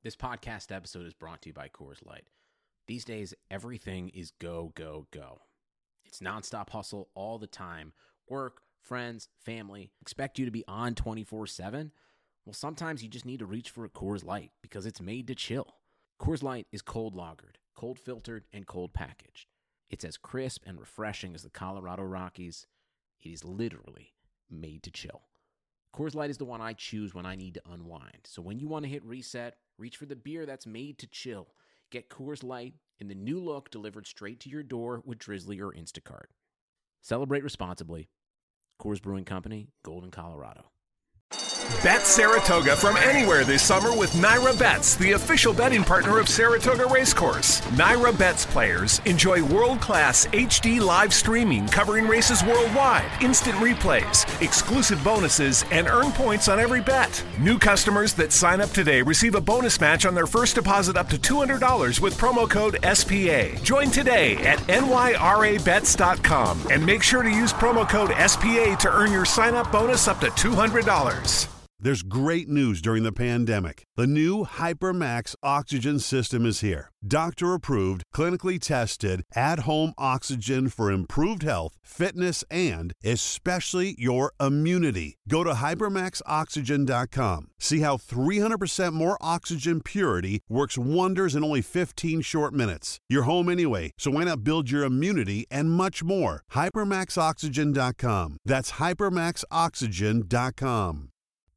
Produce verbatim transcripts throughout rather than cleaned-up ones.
This podcast episode is brought to you by Coors Light. These days, everything is go, go, go. It's nonstop hustle all the time. Work, friends, family, expect you to be on twenty-four seven. Well, sometimes you just need to reach for a Coors Light because it's made to chill. Coors Light is cold lagered, cold filtered, and cold packaged. It's as crisp and refreshing as the Colorado Rockies. It is literally made to chill. Coors Light is the one I choose when I need to unwind. So when you want to hit reset, reach for the beer that's made to chill. Get Coors Light in the new look delivered straight to your door with Drizzly or Instacart. Celebrate responsibly. Coors Brewing Company, Golden, Colorado. Bet Saratoga from anywhere this summer with Naira Bets, the official betting partner of Saratoga Racecourse. Naira Bets players enjoy world-class H D live streaming covering races worldwide, instant replays, exclusive bonuses, and earn points on every bet. New customers that sign up today receive a bonus match on their first deposit up to two hundred dollars with promo code S P A. Join today at N Y R A bets dot com and make sure to use promo code S P A to earn your sign-up bonus up to two hundred dollars. There's great news during the pandemic. The new HyperMax oxygen system is here. Doctor-approved, clinically tested, at-home oxygen for improved health, fitness, and especially your immunity. Go to hypermax oxygen dot com. See how three hundred percent more oxygen purity works wonders in only fifteen short minutes. You're home anyway, so why not build your immunity and much more? hypermax oxygen dot com. That's hypermax oxygen dot com.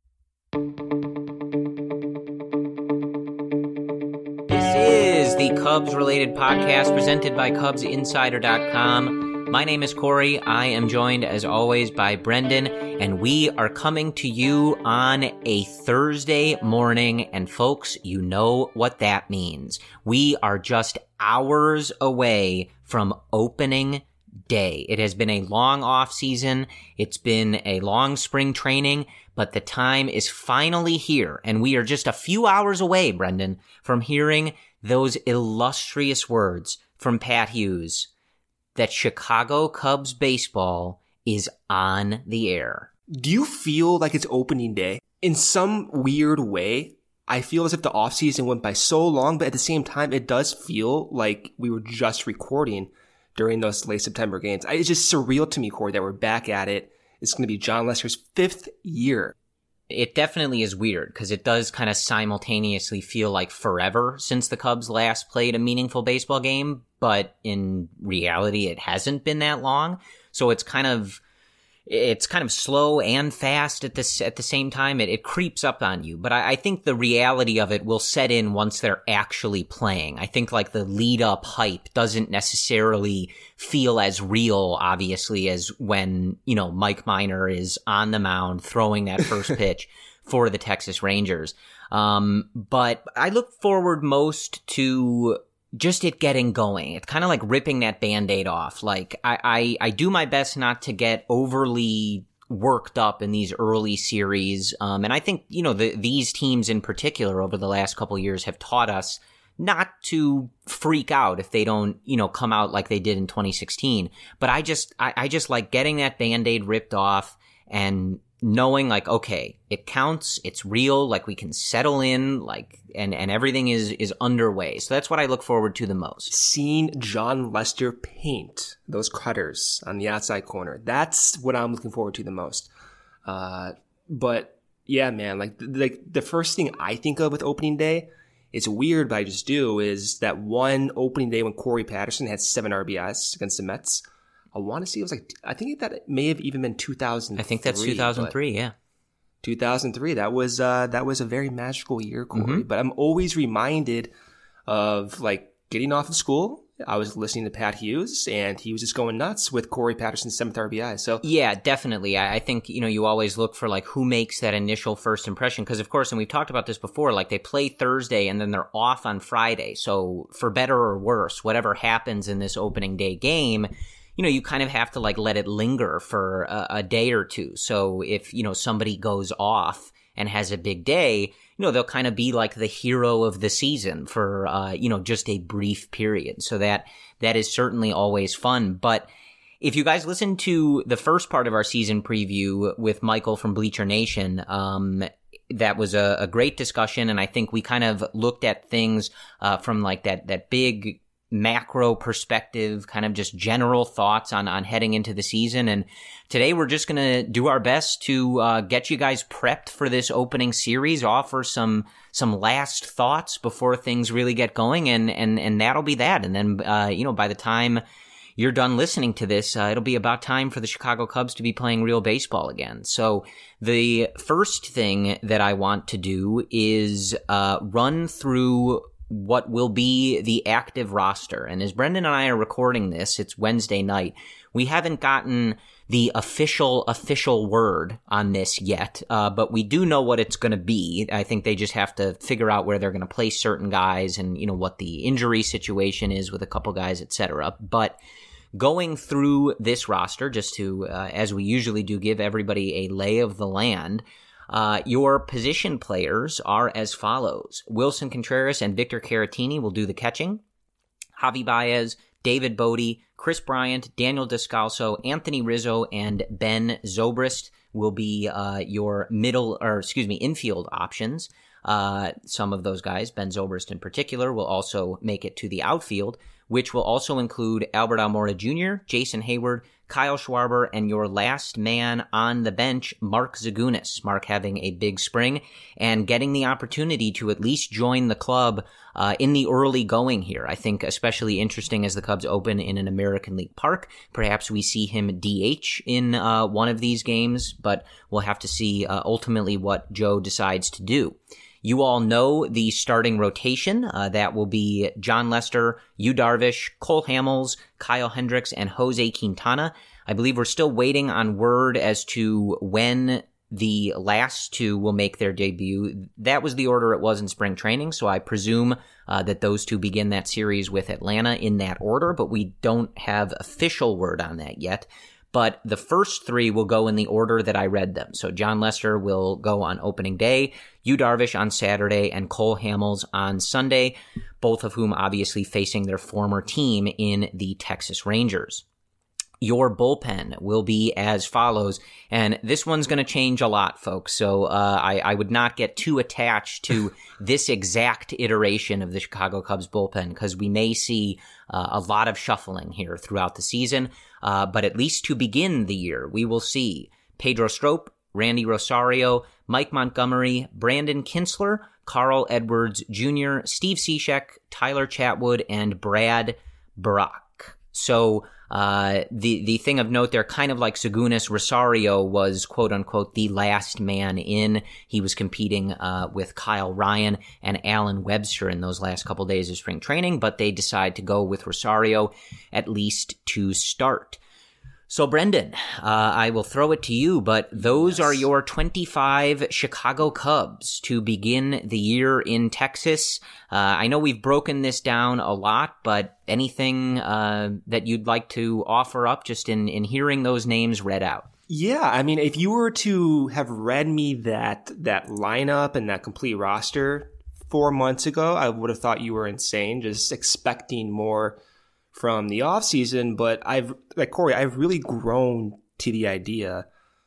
This is the Cubs-related podcast presented by Cubs Insider dot com. My name is Corey. I am joined, as always, by Brendan, and we are coming to you on a Thursday morning, and folks, you know what that means. We are just hours away from opening day. It has been a long off season. It's been a long spring training, but the time is finally here, and we are just a few hours away, Brendan, from hearing those illustrious words from Pat Hughes that Chicago Cubs baseball is on the air. Do you feel like it's opening day? In some weird way, I feel as if the offseason went by so long, but at the same time, it does feel like we were just recording during those late September games. It's just surreal to me, Corey, that we're back at it. It's going to be Jon Lester's fifth year. It definitely is weird because it does kind of simultaneously feel like forever since the Cubs last played a meaningful baseball game, but in reality, it hasn't been that long. So it's kind of it's kind of slow and fast at this at the same time. It, it creeps up on you, but I, I think the reality of it will set in once they're actually playing. I think like the lead up hype doesn't necessarily feel as real, obviously, as when, you know, Mike Minor is on the mound throwing that first pitch for the Texas Rangers. Um, but I look forward most to just it getting going. It's kind of like ripping that Band-Aid off. Like I, I, I do my best not to get overly worked up in these early series. Um, and I think, you know, the, these teams in particular over the last couple of years have taught us not to freak out if they don't, you know, come out like they did in twenty sixteen. But I just, I, I just like getting that Band-Aid ripped off and knowing like, okay, it counts, it's real, like we can settle in, like, and, and everything is, is underway. So that's what I look forward to the most. Seeing Jon Lester paint those cutters on the outside corner. That's what I'm looking forward to the most. Uh, but yeah, man, like, like the first thing I think of with opening day, it's weird, but I just do, is that one opening day when Corey Patterson had seven R B Is against the Mets. I want to see, it was like, I think that it may have even been two thousand three. I think that's two thousand three, yeah. two thousand three, that was, uh, that was a very magical year, Corey. Mm-hmm. But I'm always reminded of, like, getting off of school. I was listening to Pat Hughes, and he was just going nuts with Corey Patterson's seventh R B I. So yeah, definitely. I, I think, you know, you always look for, like, who makes that initial first impression. Because, of course, and we've talked about this before, like, they play Thursday, and then they're off on Friday. So for better or worse, whatever happens in this opening day game, you know, you kind of have to, like, let it linger for a, a day or two. So if, you know, somebody goes off and has a big day, you know, they'll kind of be like the hero of the season for, uh, you know, just a brief period. So that, that is certainly always fun. But if you guys listen to the first part of our season preview with Michael from Bleacher Nation, um, that was a, a great discussion, and I think we kind of looked at things uh, from like that that big macro perspective, kind of just general thoughts on, on heading into the season. And today we're just going to do our best to uh, get you guys prepped for this opening series, offer some some last thoughts before things really get going, and and and that'll be that. And then uh, you know, by the time you're done listening to this, uh, it'll be about time for the Chicago Cubs to be playing real baseball again. So the first thing that I want to do is uh, run through what will be the active roster. And as Brendan and I are recording this, it's Wednesday night. We haven't gotten the official, official word on this yet, uh, but we do know what it's going to be. I think they just have to figure out where they're going to place certain guys and, you know, what the injury situation is with a couple guys, et cetera. But going through this roster, just to, uh, as we usually do, give everybody a lay of the land, Uh, your position players are as follows. Wilson Contreras and Victor Caratini will do the catching. Javi Baez, David Bote, Chris Bryant, Daniel Descalso, Anthony Rizzo, and Ben Zobrist will be uh, your middle, or excuse me, infield options. Uh, some of those guys, Ben Zobrist in particular, will also make it to the outfield, which will also include Albert Almora Junior, Jason Hayward, Kyle Schwarber, and your last man on the bench, Mark Zagunis. Mark having a big spring and getting the opportunity to at least join the club uh, in the early going here. I think especially interesting as the Cubs open in an American League park. Perhaps we see him D H in uh, one of these games, but we'll have to see uh, ultimately what Joe decides to do. You all know the starting rotation. Uh, that will be John Lester, Yu Darvish, Cole Hamels, Kyle Hendricks, and Jose Quintana. I believe we're still waiting on word as to when the last two will make their debut. That was the order it was in spring training, so I presume uh, that those two begin that series with Atlanta in that order, but we don't have official word on that yet. But the first three will go in the order that I read them. So John Lester will go on opening day, Yu Darvish on Saturday, and Cole Hamels on Sunday, both of whom obviously facing their former team in the Texas Rangers. Your bullpen will be as follows, and this one's going to change a lot, folks, so uh, I, I would not get too attached to this exact iteration of the Chicago Cubs bullpen, because we may see uh, a lot of shuffling here throughout the season, uh, but at least to begin the year, we will see Pedro Strop, Randy Rosario, Mike Montgomery, Brandon Kinsler, Carl Edwards Junior, Steve Cishek, Tyler Chatwood, and Brad Brach. So Uh, the, the thing of note there, kind of like Zagunis, Rosario was quote unquote the last man in. He was competing, uh, with Kyle Ryan and Alan Webster in those last couple days of spring training, but they decide to go with Rosario at least to start. So, Brendan, uh, I will throw it to you, but those yes. are your twenty-five Chicago Cubs to begin the year in Texas. Uh, I know we've broken this down a lot, but anything uh, that you'd like to offer up just in, in hearing those names read out? Yeah, I mean, if you were to have read me that that lineup and that complete roster four months ago, I would have thought you were insane, just expecting more from the offseason. But I've, like Corey, I've really grown to the idea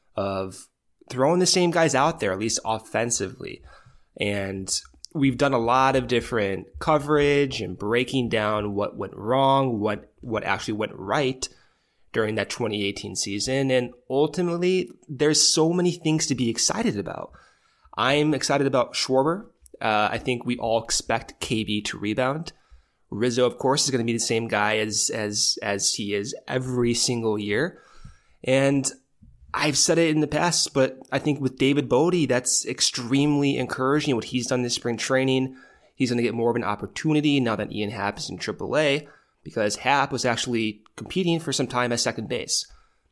of throwing the same guys out there, at least offensively. And we've done a lot of different coverage and breaking down what went wrong, what what actually went right during that twenty eighteen season. And ultimately, there's so many things to be excited about. I'm excited about Schwarber. Uh, I think we all expect K B to rebound. Rizzo, of course, is going to be the same guy as as as he is every single year. And I've said it in the past, but I think with David Bote, that's extremely encouraging. What he's done this spring training, he's going to get more of an opportunity now that Ian Happ is in triple A, because Happ was actually competing for some time at second base.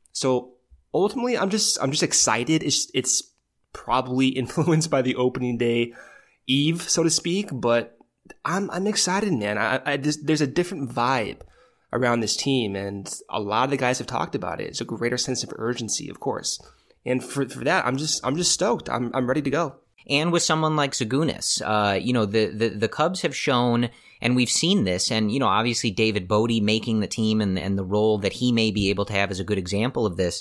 So ultimately, I'm just I'm just excited. It's it's probably influenced by the opening day eve, so to speak, but I'm I'm excited, man. I, I just, there's a different vibe around this team, and a lot of the guys have talked about it. It's a greater sense of urgency, of course, and for for that, I'm just I'm just stoked. I'm I'm ready to go. And with someone like Zagunis, uh, you know, the, the the Cubs have shown, and we've seen this, and you know, obviously David Bote making the team and and the role that he may be able to have is a good example of this.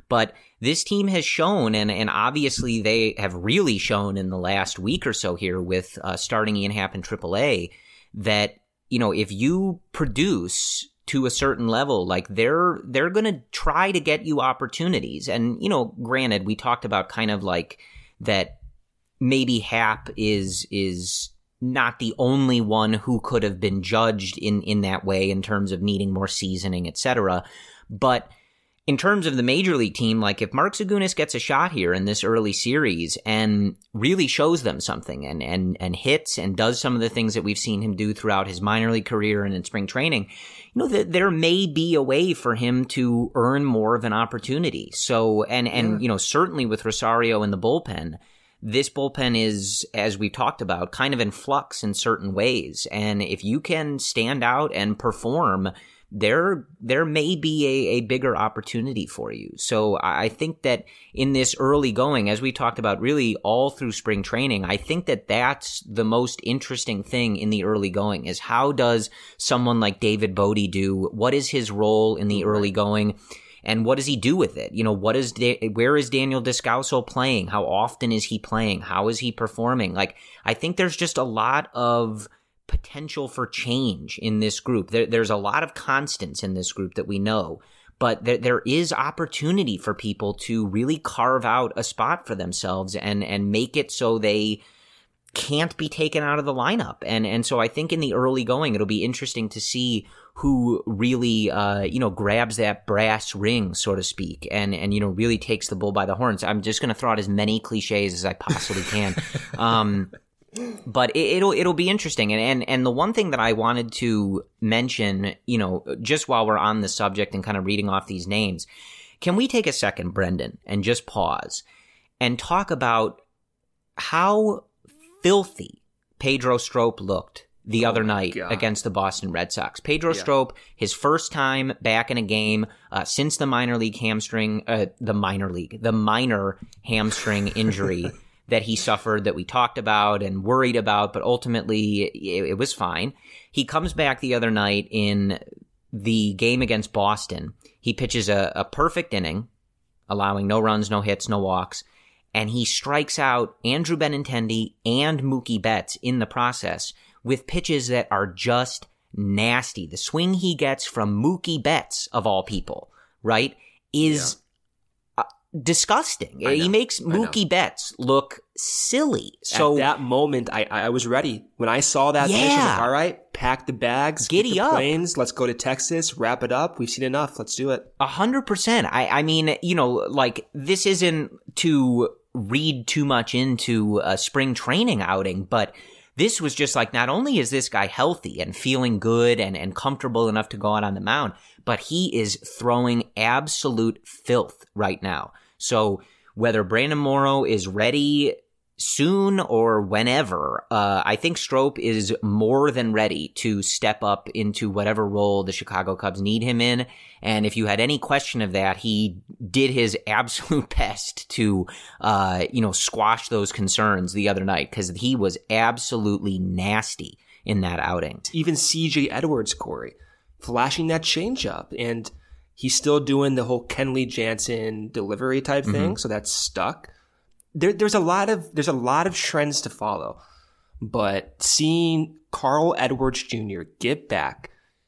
But this team has shown, and, and obviously they have really shown in the last week or so here with uh, starting Ian Happ in triple A, that, you know, if you produce to a certain level, like they're they're going to try to get you opportunities. And, you know, granted, we talked about kind of like that maybe Happ is is not the only one who could have been judged in, in that way in terms of needing more seasoning, et cetera. But in terms of the major league team, like if Mark Zagunis gets a shot here in this early series and really shows them something and, and, and hits and does some of the things that we've seen him do throughout his minor league career and in spring training, you know, that there may be a way for him to earn more of an opportunity. So, and, and, yeah. you know, certainly with Rosario in the bullpen, this bullpen is, as we've talked about, kind of in flux in certain ways. And if you can stand out and perform, there there may be a, a bigger opportunity for you. So I think that in this early going, as we talked about really all through spring training, I think that that's the most interesting thing in the early going is how does someone like David Bote do? What is his role in the early going? And what does he do with it? You know, what is da- where is Daniel Descalso playing? How often is he playing? How is he performing? Like, I think there's just a lot of potential for change in this group. There, there's a lot of constants in this group that we know, but there, there is opportunity for people to really carve out a spot for themselves and, and make it so they can't be taken out of the lineup. And, and so I think in the early going, it'll be interesting to see who really, uh, you know, grabs that brass ring, so to speak, and, and, you know, really takes the bull by the horns. I'm just going to throw out as many cliches as I possibly can. um, But it, it'll it'll be interesting, and, and and the one thing that I wanted to mention, you know, just while we're on the subject and kind of reading off these names, can we take a second, Brendan, and just pause and talk about how filthy Pedro Strop looked the oh other night God. against the Boston Red Sox. Pedro yeah. Strop, his first time back in a game uh, since the minor league hamstring, uh, the minor league, the minor hamstring injury. that he suffered, that we talked about and worried about, but ultimately it, it was fine. He comes back the other night in the game against Boston. He pitches a, a perfect inning, allowing no runs, no hits, no walks, and he strikes out Andrew Benintendi and Mookie Betts in the process with pitches that are just nasty. The swing he gets from Mookie Betts, of all people, right, is... Yeah. disgusting. He makes Mookie Betts look silly. So at that moment, I I was ready. When I saw that yeah. pitch, I was like, all right, pack the bags, giddy get the up, planes, let's go to Texas, wrap it up. We've seen enough. Let's do it. A hundred percent. I I mean, you know, like this isn't to read too much into a spring training outing, but this was just like, not only is this guy healthy and feeling good and, and comfortable enough to go out on the mound, but he is throwing absolute filth right now. So whether Brandon Morrow is ready soon or whenever, uh, I think Strop is more than ready to step up into whatever role the Chicago Cubs need him in. And if you had any question of that, he did his absolute best to, uh, you know, squash those concerns the other night because he was absolutely nasty in that outing. Even C J Edwards, Corey, flashing that changeup, and he's still doing the whole Kenley Jansen delivery type thing, mm-hmm. so that's stuck. There, there's a lot of there's a lot of trends to follow, but seeing Carl Edwards Junior get back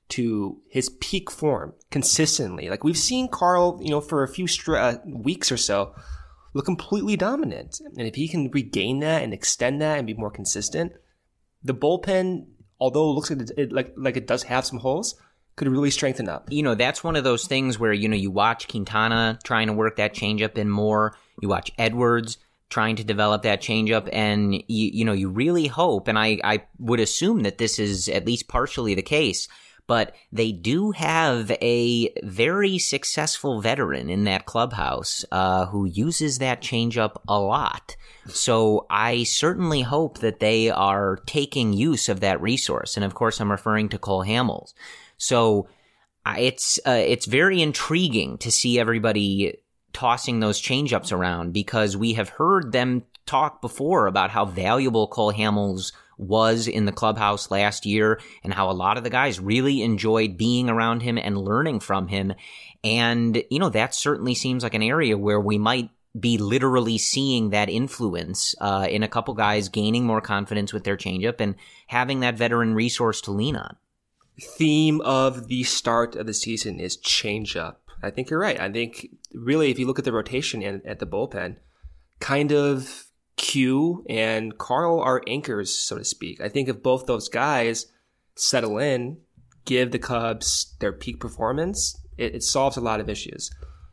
to his peak form consistently, like we've seen Carl, you know, for a few str- uh, weeks or so, look completely dominant, and if he can regain that and extend that and be more consistent, the bullpen, although it looks like it, like like it does have some holes, could really strengthen up. You know, that's one of those things where, you know, you watch Quintana trying to work that changeup in more. You watch Edwards trying to develop that changeup, and, you, you know, you really hope, and I, I would assume that this is at least partially the case, but they do have a very successful veteran in that clubhouse uh, who uses that changeup a lot. So I certainly hope that they are taking use of that resource. And of course, I'm referring to Cole Hamels. So uh, it's uh, it's very intriguing to see everybody tossing those changeups around, because we have heard them talk before about how valuable Cole Hamels was in the clubhouse last year and how a lot of the guys really enjoyed being around him and learning from him. And, you know, that certainly seems like an area where we might be literally seeing that influence uh, in a couple guys gaining more confidence with their changeup and having that veteran resource to lean on. Theme of the start of the season is changeup. I think you're right. I think really if you look at the rotation and at the bullpen, kind of Q and Carl are anchors, so to speak. I think if both those guys settle in, give the Cubs their peak performance, it, it solves a lot of issues.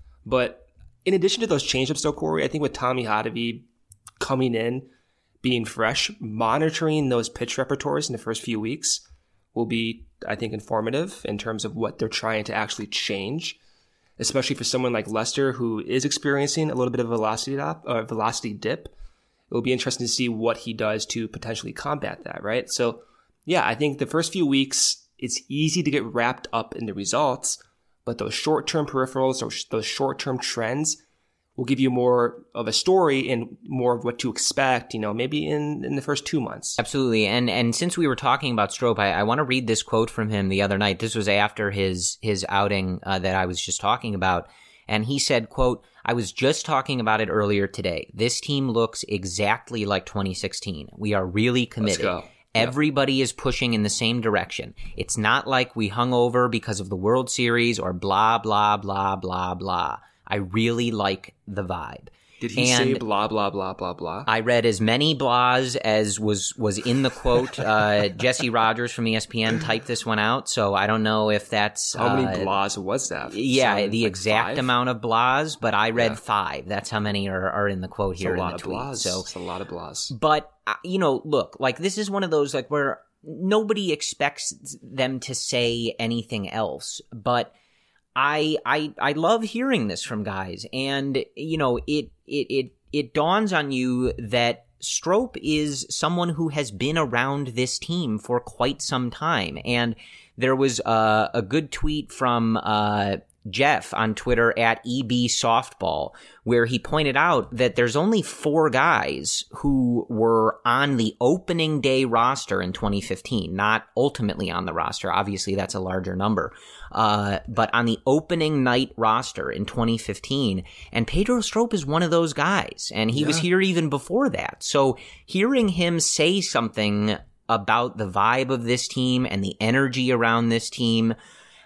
But in addition to those changeups, though, Corey, I think with Tommy Hotovy coming in, being fresh, monitoring those pitch repertoires in the first few weeks will be, I think, informative in terms of what they're trying to actually change, especially for someone like Lester who is experiencing a little bit of a velocity dip. Uh, velocity dip. It will be interesting to see what he does to potentially combat that, right? So, yeah, I think the first few weeks, it's easy to get wrapped up in the results, but those short-term peripherals, those, those short-term trends will give you more of a story and more of what to expect, you know, maybe in, in the first two months. Absolutely. And and since we were talking about Strop, I, I want to read this quote from him the other night. This was after his, his outing uh, that I was just talking about. And he said, quote, "I was just talking about it earlier today. This team looks exactly like twenty sixteen. We are really committed. Let's go. Everybody is pushing in the same direction. It's not like we hung over because of the World Series or blah, blah, blah, blah, blah. I really like the vibe." Did he and say blah, blah, blah, blah, blah? I read as many blahs as was, was in the quote. Uh, Jesse Rogers from E S P N typed this one out, so I don't know if that's... How uh, many blahs was that? Yeah, Sound the like exact five? amount of blahs, but I read Yeah. five. That's how many are, are in the quote here It's a in lot the of tweet. blahs. So, It's a lot of blahs. but, uh, you know, look, like this is one of those like where nobody expects them to say anything else, but I I I love hearing this from guys, and you know, it it it it dawns on you that Strop is someone who has been around this team for quite some time, and there was uh, a good tweet from uh, Jeff on Twitter at E B Softball, where he pointed out that there's only four guys who were on the opening day roster in twenty fifteen, not ultimately on the roster. Obviously, that's a larger number. Uh, but on the opening night roster in twenty fifteen, and Pedro Strop is one of those guys, and he yeah. was here even before that. So hearing him say something about the vibe of this team and the energy around this team,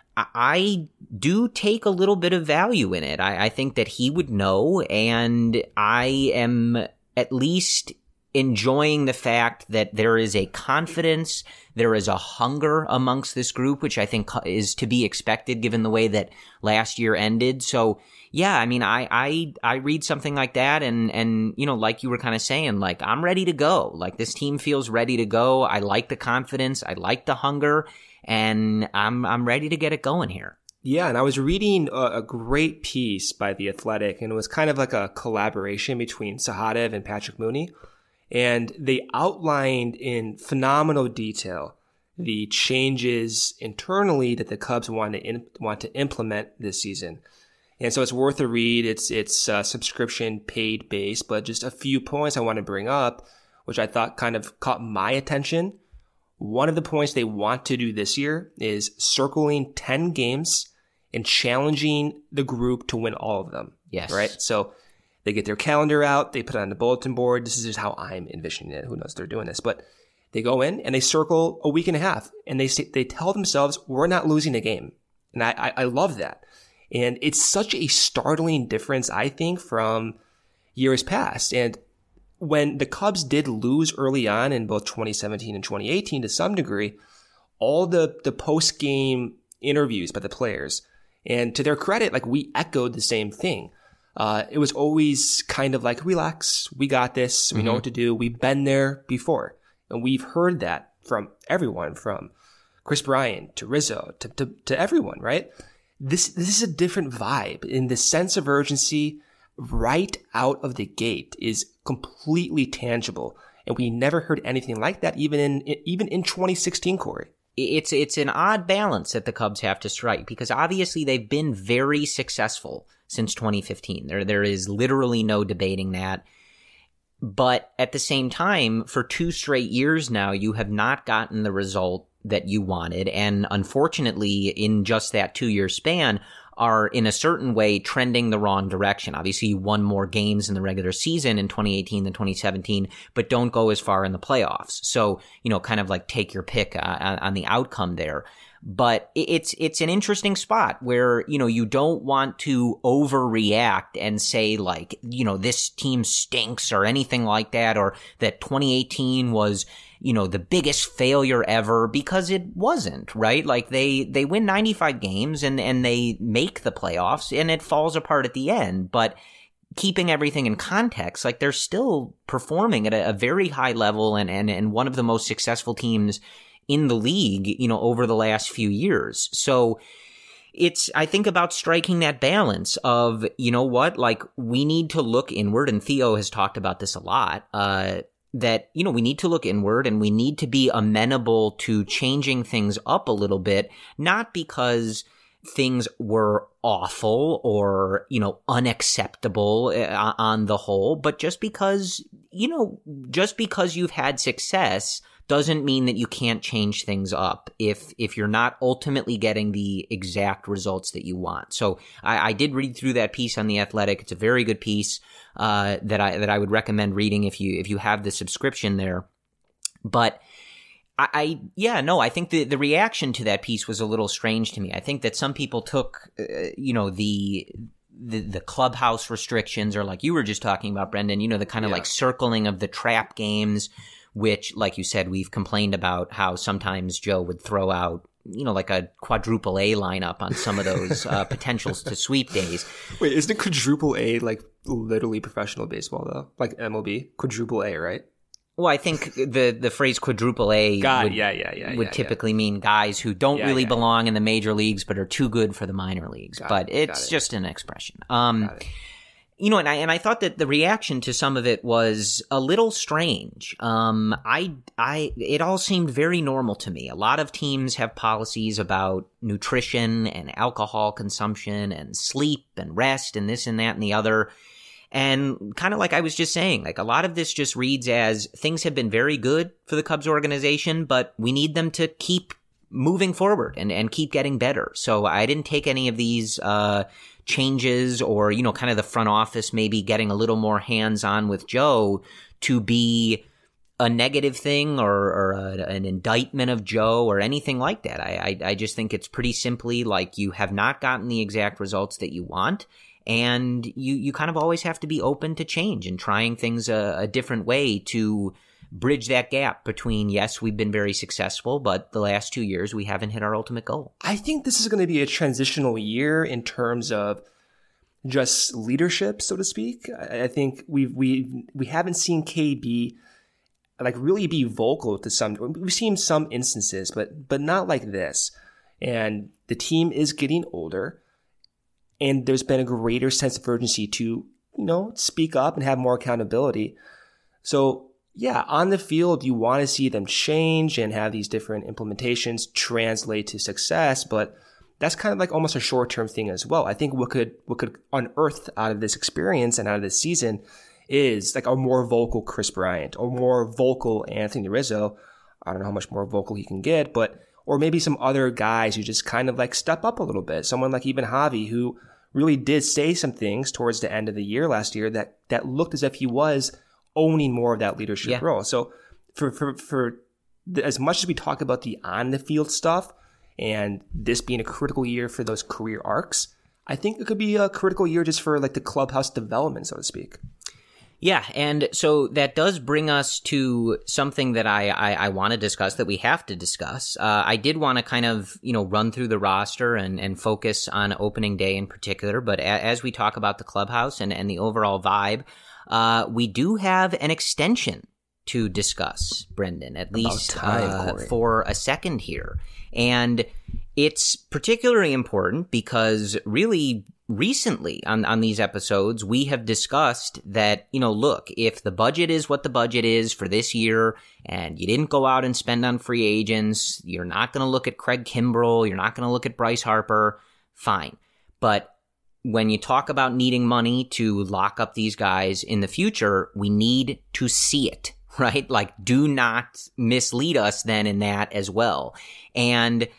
I do take a little bit of value in it. I, I think that he would know, and I am at least enjoying the fact that there is a confidence, there is a hunger amongst this group, which I think is to be expected given the way that last year ended. So, yeah, I mean, I I, I read something like that, and, and you know, like you were kind of saying, like, I'm ready to go. Like, this team feels ready to go. I like the confidence. I like the hunger. And I'm I'm ready to get it going here. Yeah, and I was reading a, a great piece by The Athletic, and it was kind of like a collaboration between Sahadev and Patrick Mooney. And they outlined in phenomenal detail the changes internally that the Cubs want to in, want to implement this season. And so it's worth a read. It's it's uh, subscription paid based, but just a few points I want to bring up, which I thought kind of caught my attention. One of the points they want to do this year is circling ten games and challenging the group to win all of them. Yes. Right? So they get their calendar out, they put it on the bulletin board. This is just how I'm envisioning it. Who knows they're doing this? But they go in and they circle a week and a half, and they say, they tell themselves, we're not losing a game. And I, I, I love that. And it's such a startling difference, I think, from years past. And when the Cubs did lose early on in both twenty seventeen and twenty eighteen to some degree, all the, the post-game interviews by the players, and to their credit, like we echoed the same thing. Uh, it was always kind of like, relax, we got this, we mm-hmm. know what to do, we've been there before. And we've heard that from everyone, from Chris Bryant to Rizzo to, to, to everyone, right? This, this is a different vibe, and the sense of urgency right out of the gate is completely tangible. And we never heard anything like that, even in, even in twenty sixteen, Corey. It's, it's an odd balance that the Cubs have to strike, because obviously they've been very successful since twenty fifteen. There, there is literally no debating that. But at the same time, for two straight years now, you have not gotten the result that you wanted. And unfortunately, in just that two-year span, are in a certain way trending the wrong direction. Obviously, you won more games in the regular season in twenty eighteen than twenty seventeen, but don't go as far in the playoffs. So, you know, kind of like take your pick uh, on the outcome there. But it's it's an interesting spot where, you know, you don't want to overreact and say like, you know, this team stinks or anything like that, or that twenty eighteen was, you know, the biggest failure ever, because it wasn't, right? Like they, they win ninety-five games and, and they make the playoffs and it falls apart at the end. But keeping everything in context, like they're still performing at a, a very high level and, and, and one of the most successful teams in the league, you know, over the last few years. So it's, I think about striking that balance of, you know what, like we need to look inward, and Theo has talked about this a lot, uh, that, you know, we need to look inward and we need to be amenable to changing things up a little bit, not because things were awful or, you know, unacceptable uh, on the whole, but just because, you know, just because you've had success doesn't mean that you can't change things up if if you're not ultimately getting the exact results that you want. So I, I did read through that piece on The Athletic. It's a very good piece uh, that I that I would recommend reading if you if you have the subscription there. But I, I yeah no I think the the reaction to that piece was a little strange to me. I think that some people took uh, you know the. The, the clubhouse restrictions, or like you were just talking about, Brendan, you know, the kind of yeah. like circling of the trap games, which, like you said, we've complained about how sometimes Joe would throw out, you know, like a quadruple A lineup on some of those uh, potentials to sweep days. Wait, isn't it quadruple A like literally professional baseball though? Like M L B? Quadruple A, right? Well, I think the the phrase quadruple A God, would, yeah, yeah, yeah, would yeah, typically yeah. mean guys who don't yeah, really yeah, belong yeah. in the major leagues but are too good for the minor leagues. Got but it, it's it. just an expression. Um, Got it. You know, and I and I thought that the reaction to some of it was a little strange. Um, I I it all seemed very normal to me. A lot of teams have policies about nutrition and alcohol consumption and sleep and rest and this and that and the other. And kind of like I was just saying, like a lot of this just reads as things have been very good for the Cubs organization, but we need them to keep moving forward and, and keep getting better. So I didn't take any of these uh, changes or, you know, kind of the front office maybe getting a little more hands-on with Joe to be a negative thing or, or a, an indictment of Joe or anything like that. I, I I just think it's pretty simply like you have not gotten the exact results that you want. And you, you kind of always have to be open to change and trying things a, a different way to bridge that gap between, yes, we've been very successful, but the last two years we haven't hit our ultimate goal. I think this is going to be a transitional year in terms of just leadership, so to speak. I, I think we've, we we haven't seen K B like really be vocal to some. We've seen some instances, but but not like this. And the team is getting older. And there's been a greater sense of urgency to, you know, speak up and have more accountability. So, yeah, on the field, you want to see them change and have these different implementations translate to success. But that's kind of like almost a short-term thing as well. I think what could what could unearth out of this experience and out of this season is like a more vocal Chris Bryant or more vocal Anthony Rizzo. I don't know how much more vocal he can get, but or maybe some other guys who just kind of like step up a little bit. Someone like even Javi, who really did say some things towards the end of the year last year that, that looked as if he was owning more of that leadership yeah. role. So for, for, for the, as much as we talk about the on the field stuff and this being a critical year for those career arcs, I think it could be a critical year just for like the clubhouse development, so to speak. Yeah, and so that does bring us to something that I, I, I want to discuss, that we have to discuss. Uh, I did want to kind of, you know, run through the roster and, and focus on opening day in particular, but a, as we talk about the clubhouse and, and the overall vibe, uh, we do have an extension to discuss, Brendan, at least time, uh, for a second here. And it's particularly important because really recently on, on these episodes, we have discussed that, you know, look, if the budget is what the budget is for this year and you didn't go out and spend on free agents, you're not going to look at Craig Kimbrell, you're not going to look at Bryce Harper, fine. But when you talk about needing money to lock up these guys in the future, we need to see it, right? Like, do not mislead us then in that as well. And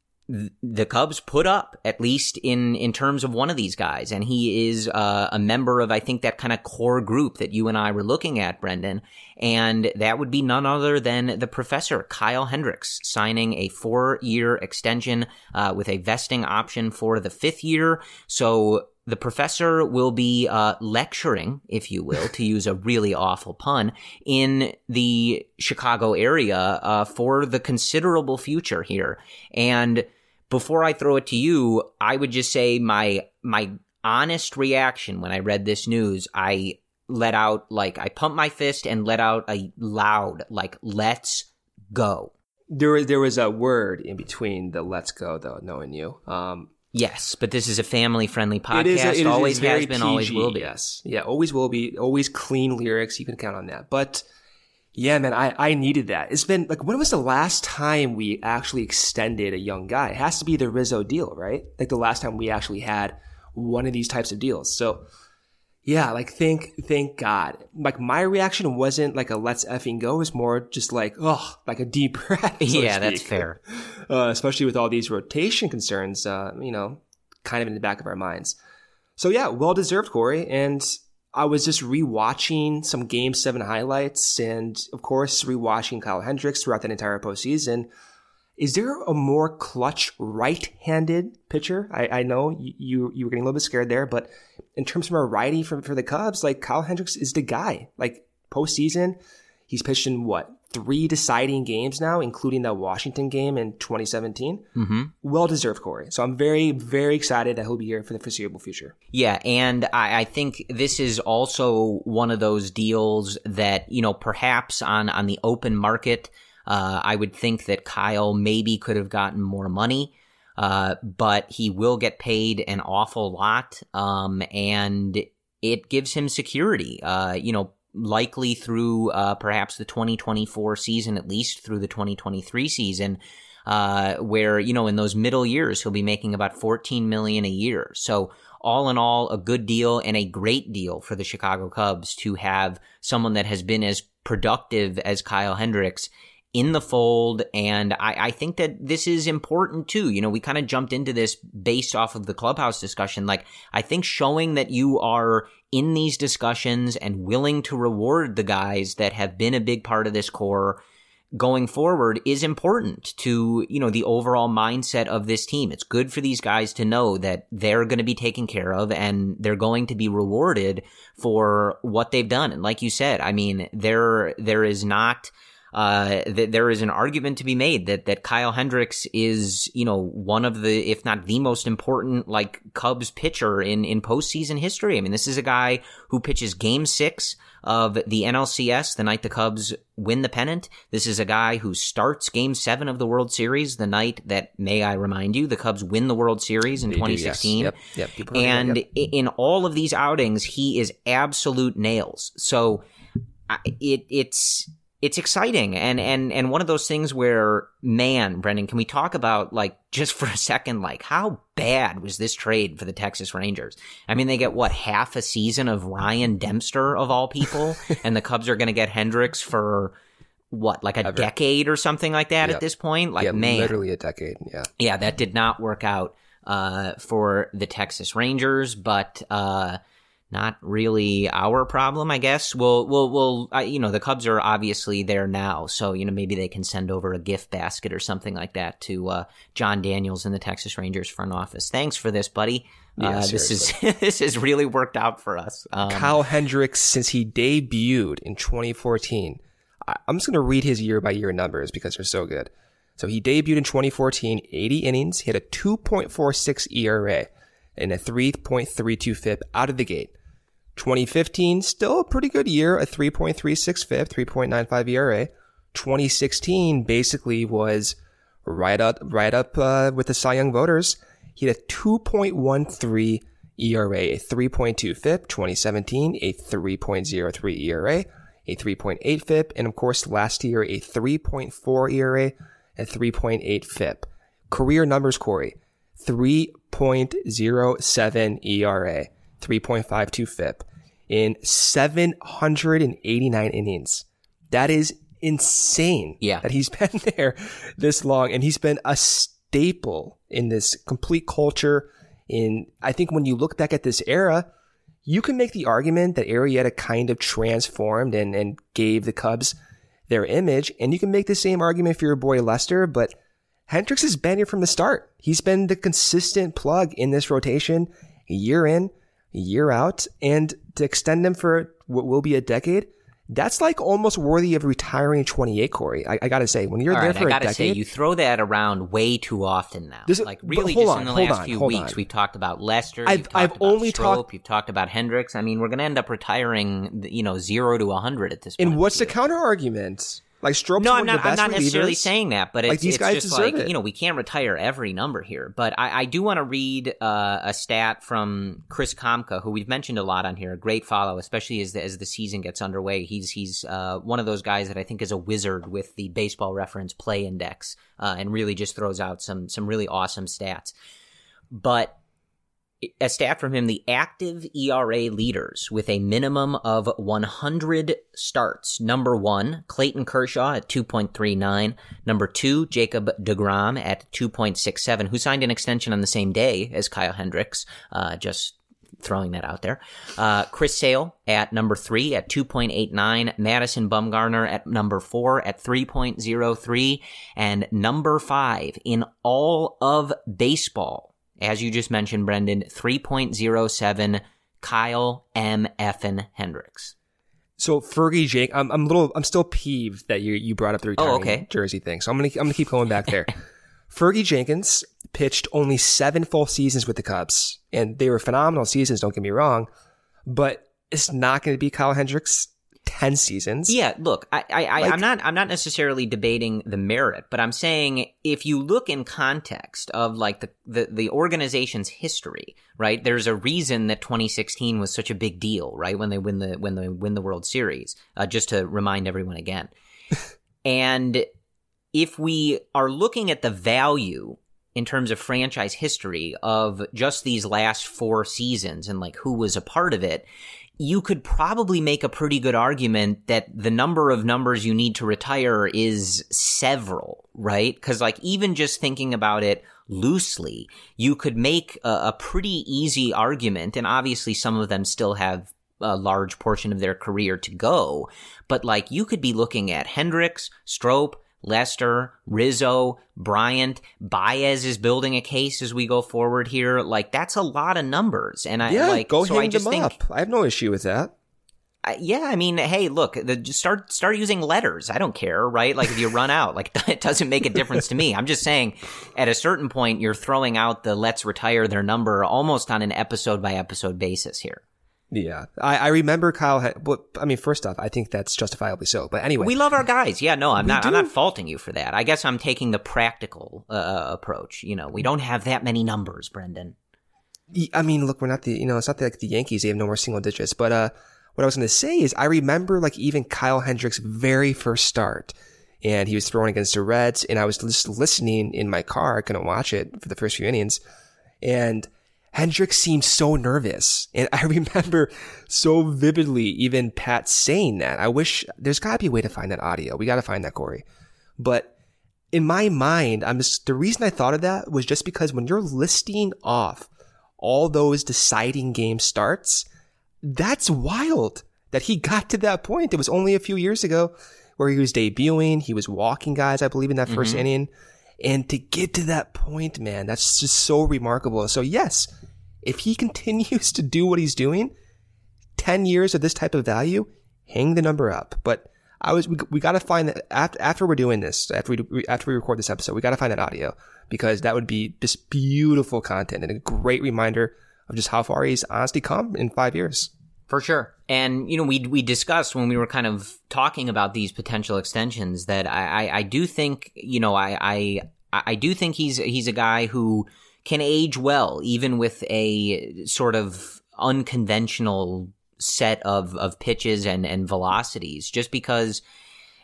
the Cubs put up, at least in, in terms of one of these guys, and he is uh, a member of, I think, that kind of core group that you and I were looking at, Brendan, and that would be none other than the professor, Kyle Hendricks, signing a four-year extension uh, with a vesting option for the fifth year. So the professor will be uh, lecturing, if you will, to use a really awful pun, in the Chicago area uh, for the considerable future here. And before I throw it to you, I would just say my my honest reaction when I read this news, I let out, like, I pumped my fist and let out a loud, like, let's go. There was, there was a word in between the let's go, though, knowing you. Um, yes, but this is a family-friendly podcast. It is, a, it is, always has been, P G, always will be. Yes. Yeah, always will be. Always clean lyrics. You can count on that. But yeah, man, I, I needed that. It's been, like, when was the last time we actually extended a young guy? It has to be the Rizzo deal, right? Like, the last time we actually had one of these types of deals. So, yeah, like, thank, thank God. Like, my reaction wasn't like a let's effing go. It was more just like, oh, like a deep breath. So yeah, that's fair. Uh, especially with all these rotation concerns, uh, you know, kind of in the back of our minds. So, yeah, well-deserved, Corey. And I was just rewatching some Game seven highlights and, of course, rewatching Kyle Hendricks throughout that entire postseason. Is there a more clutch right-handed pitcher? I, I know you you were getting a little bit scared there, but in terms of a righty for, for the Cubs, like, Kyle Hendricks is the guy. Like, postseason, he's pitched in, what, three deciding games now, including that Washington game in twenty seventeen. Mm-hmm. Well-deserved, Corey. So I'm very, very excited that he'll be here for the foreseeable future. Yeah, and I, I think this is also one of those deals that, you know, perhaps on, on the open market, uh, I would think that Kyle maybe could have gotten more money, uh, but he will get paid an awful lot, um, and it gives him security, uh, you know, likely through uh, perhaps the twenty twenty-four season, at least through the twenty twenty-three season, uh, where, you know, in those middle years, he'll be making about fourteen million dollars a year. So all in all, a good deal and a great deal for the Chicago Cubs to have someone that has been as productive as Kyle Hendricks in the fold. And I, I think that this is important too. You know, we kind of jumped into this based off of the clubhouse discussion. Like, I think showing that you are in these discussions and willing to reward the guys that have been a big part of this core going forward is important to, you know, the overall mindset of this team. It's good for these guys to know that they're going to be taken care of and they're going to be rewarded for what they've done. And like you said, I mean, there, there is not, Uh, th- there is an argument to be made that, that Kyle Hendricks is, you know, one of the, if not the most important, like, Cubs pitcher in, in postseason history. I mean, this is a guy who pitches game six of the N L C S the night the Cubs win the pennant. This is a guy who starts game seven of the World Series the night that, may I remind you, the Cubs win the World Series in they twenty sixteen. Do, yes. Yep, yep. And yep. in all of these outings, he is absolute nails. So it, it's, It's exciting, and, and, and one of those things where, man, Brendan, can we talk about, like, just for a second, like, how bad was this trade for the Texas Rangers? I mean, they get, what, half a season of Ryan Dempster, of all people, and the Cubs are going to get Hendricks for, what, like a Ever. decade or something like that yep. at this point? Like, yeah, man. literally a decade, yeah. Yeah, that did not work out uh, for the Texas Rangers, but... Uh, Not really our problem, I guess. We'll, we'll, we'll, uh, you know, the Cubs are obviously there now, so, you know, maybe they can send over a gift basket or something like that to uh, John Daniels in the Texas Rangers front office. Thanks for this, buddy. Yeah, uh, this is this has really worked out for us. Um, Kyle Hendricks, since he debuted in twenty fourteen, I'm just going to read his year-by-year numbers because they're so good. So he debuted in twenty fourteen, eighty innings, he had a two point four six E R A and a three point three two F I P out of the gate. twenty fifteen, still a pretty good year, a three point three six F I P, three point nine five E R A. twenty sixteen basically was right up, right up uh, with the Cy Young voters. He had a two point one three E R A, a three point two F I P. twenty seventeen, a three point oh three E R A, a three point eight F I P, and of course last year a three point four E R A, and three point eight F I P. Career numbers, Corey. three point oh seven E R A, three point five two F I P in seven hundred eighty-nine innings. That is insane. Yeah. That he's been there this long, and he's been a staple in this complete culture. In I think when you look back at this era, you can make the argument that Arrieta kind of transformed and, and gave the Cubs their image, and you can make the same argument for your boy Lester, but Hendricks has been here from the start. He's been the consistent plug in this rotation year in, year out, and to extend him for what will be a decade, that's like almost worthy of retiring in twenty-eight, Corey. I, I gotta say, when you're All there right, for I gotta a decade, say, you throw that around way too often now. This is- like but really, hold just on, in the hold last on, few hold weeks, on. we've talked about Lester. I've- you've talked I've about only Strope, talked- You've talked about Hendricks. I mean, we're going to end up retiring, you know, zero to a hundred at this point. and what's the here. counter argument? Like Strope's No, one I'm of not. the I'm best not necessarily relievers. saying that, but it's, Like, these it's guys just deserve like it. you know we can't retire every number here. But I, I do want to read uh, a stat from Chris Komka, who we've mentioned a lot on here. A great follow, especially as the, as the season gets underway. He's he's uh, one of those guys that I think is a wizard with the Baseball Reference Play Index, uh, and really just throws out some some really awesome stats. But a stat from him, the active E R A leaders with a minimum of one hundred starts. Number one, Clayton Kershaw at two point three nine. Number two, Jacob deGrom at two point six seven, who signed an extension on the same day as Kyle Hendricks. Uh, just throwing that out there. Uh, Chris Sale at number three at two point eight nine. Madison Bumgarner at number four at three point oh three. And number five in all of baseball, as you just mentioned, Brendan, three point oh seven, Kyle M. Effin Hendricks. So Fergie Jake, I'm I'm a little I'm still peeved that you you brought up the retiring Oh, okay. jersey thing. So I'm gonna I'm gonna keep going back there. Fergie Jenkins pitched only seven full seasons with the Cubs, and they were phenomenal seasons. Don't get me wrong, but it's not going to be Kyle Hendricks ten seasons. Yeah, look, I, I, I Like- I'm not, I'm not necessarily debating the merit, but I'm saying if you look in context of like the, the, the organization's history, right? There's a reason that twenty sixteen was such a big deal, right? When they win the, when they win the World Series, uh, just to remind everyone again. And if we are looking at the value in terms of franchise history of just these last four seasons and like who was a part of it, you could probably make a pretty good argument that the number of numbers you need to retire is several, right? Because like even just thinking about it loosely, you could make a, a pretty easy argument, and obviously some of them still have a large portion of their career to go, but like you could be looking at Hendricks, Strope, Lester, Rizzo, Bryant, Baez is building a case as we go forward here. Like that's a lot of numbers, and I yeah, like go so hang I just them think, up. I have no issue with that. I, yeah, I mean, hey, look, the, just start start using letters. I don't care, right? Like if you run out, like it doesn't make a difference to me. I'm just saying, at a certain point, you're throwing out the let's retire their number almost on an episode by episode basis here. Yeah, I, I remember Kyle. Had, well, I mean, first off, I think that's justifiably so. But anyway, We love our guys. Yeah, no, I'm We not. I'm do. not faulting you for that. I guess I'm taking the practical uh, approach. You know, we don't have that many numbers, Brendan. I mean, look, we're not the, you know, it's not like the Yankees. They have no more single digits. But uh, what I was going to say is I remember like even Kyle Hendricks' very first start, and he was throwing against the Reds, and I was just listening in my car. I couldn't watch it for the first few innings, and Hendricks seemed so nervous. And I remember so vividly even Pat saying that. I wish there's got to be a way to find that audio. We got to find that, Corey. But in my mind, I'm just, the reason I thought of that was just because when you're listing off all those deciding game starts, that's wild that he got to that point. It was only a few years ago where he was debuting. He was walking guys, I believe, in that first Mhm. inning. And to get to that point, man, that's just so remarkable. So yes, if he continues to do what he's doing, ten years of this type of value, hang the number up. But I was, we, we got to find that after, after we're doing this, after we, after we record this episode, we got to find that audio, because that would be just beautiful content and a great reminder of just how far he's honestly come in five years. For sure. And, you know, we we discussed when we were kind of talking about these potential extensions that I, I, I do think, you know, I, I I do think he's he's a guy who can age well, even with a sort of unconventional set of, of pitches and, and velocities, just because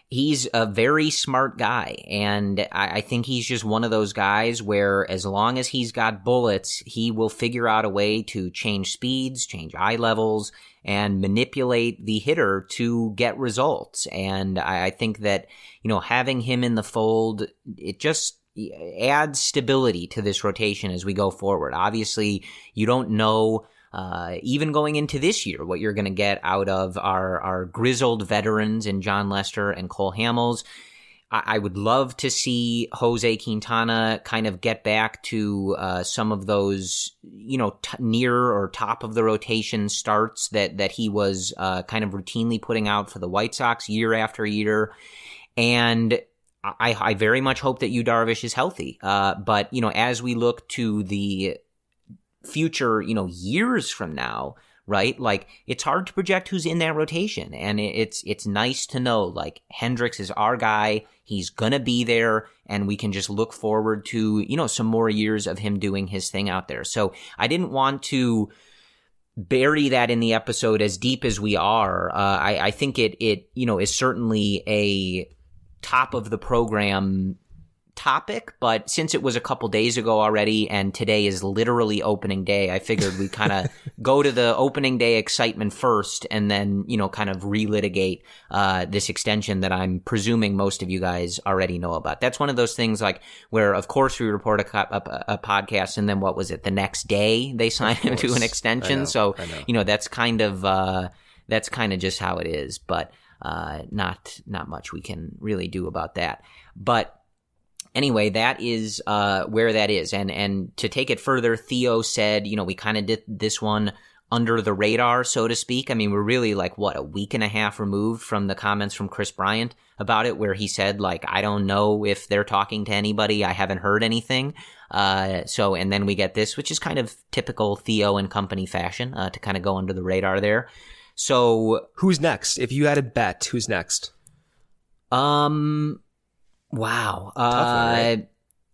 he's a very smart guy, and I, I think he's just one of those guys where as long as he's got bullets, he will figure out a way to change speeds, change eye levels, and manipulate the hitter to get results. And I, I think that, you know, having him in the fold, it just adds stability to this rotation as we go forward. Obviously, you don't know Uh, even going into this year, what you're going to get out of our, our grizzled veterans in Jon Lester and Cole Hamels. I, I would love to see Jose Quintana kind of get back to uh, some of those, you know, t- near or top of the rotation starts that, that he was uh, kind of routinely putting out for the White Sox year after year. And I, I very much hope that Yu Darvish is healthy. Uh, but, you know, as we look to the future, you know, years from now, right? Like, it's hard to project who's in that rotation. And it's, it's nice to know, like, Hendricks is our guy. He's gonna be there, and we can just look forward to, you know, some more years of him doing his thing out there. So I didn't want to bury that in the episode as deep as we are. Uh, I, I think it, it, you know, is certainly a top of the program topic, but since it was a couple days ago already and today is literally opening day, I figured we kind of go to the opening day excitement first and then, you know, kind of relitigate uh, this extension that I'm presuming most of you guys already know about. That's one of those things like where, of course, we report a, a, a podcast and then what was it? The next day they sign him to an extension. know, so, you know, that's kind of, uh, that's kind of just how it is, but uh, not, not much we can really do about that. But anyway, that is uh, where that is. And and to take it further, Theo said, you know, we kind of did this one under the radar, so to speak. I mean, we're really like, what, a week and a half removed from the comments from Chris Bryant about it, where he said, like, I don't know if they're talking to anybody. I haven't heard anything. Uh, so, and then we get this, which is kind of typical Theo and company fashion, uh, to kind of go under the radar there. So, who's next? If you had a bet, who's next? Um... Wow. Uh, Tough one, right?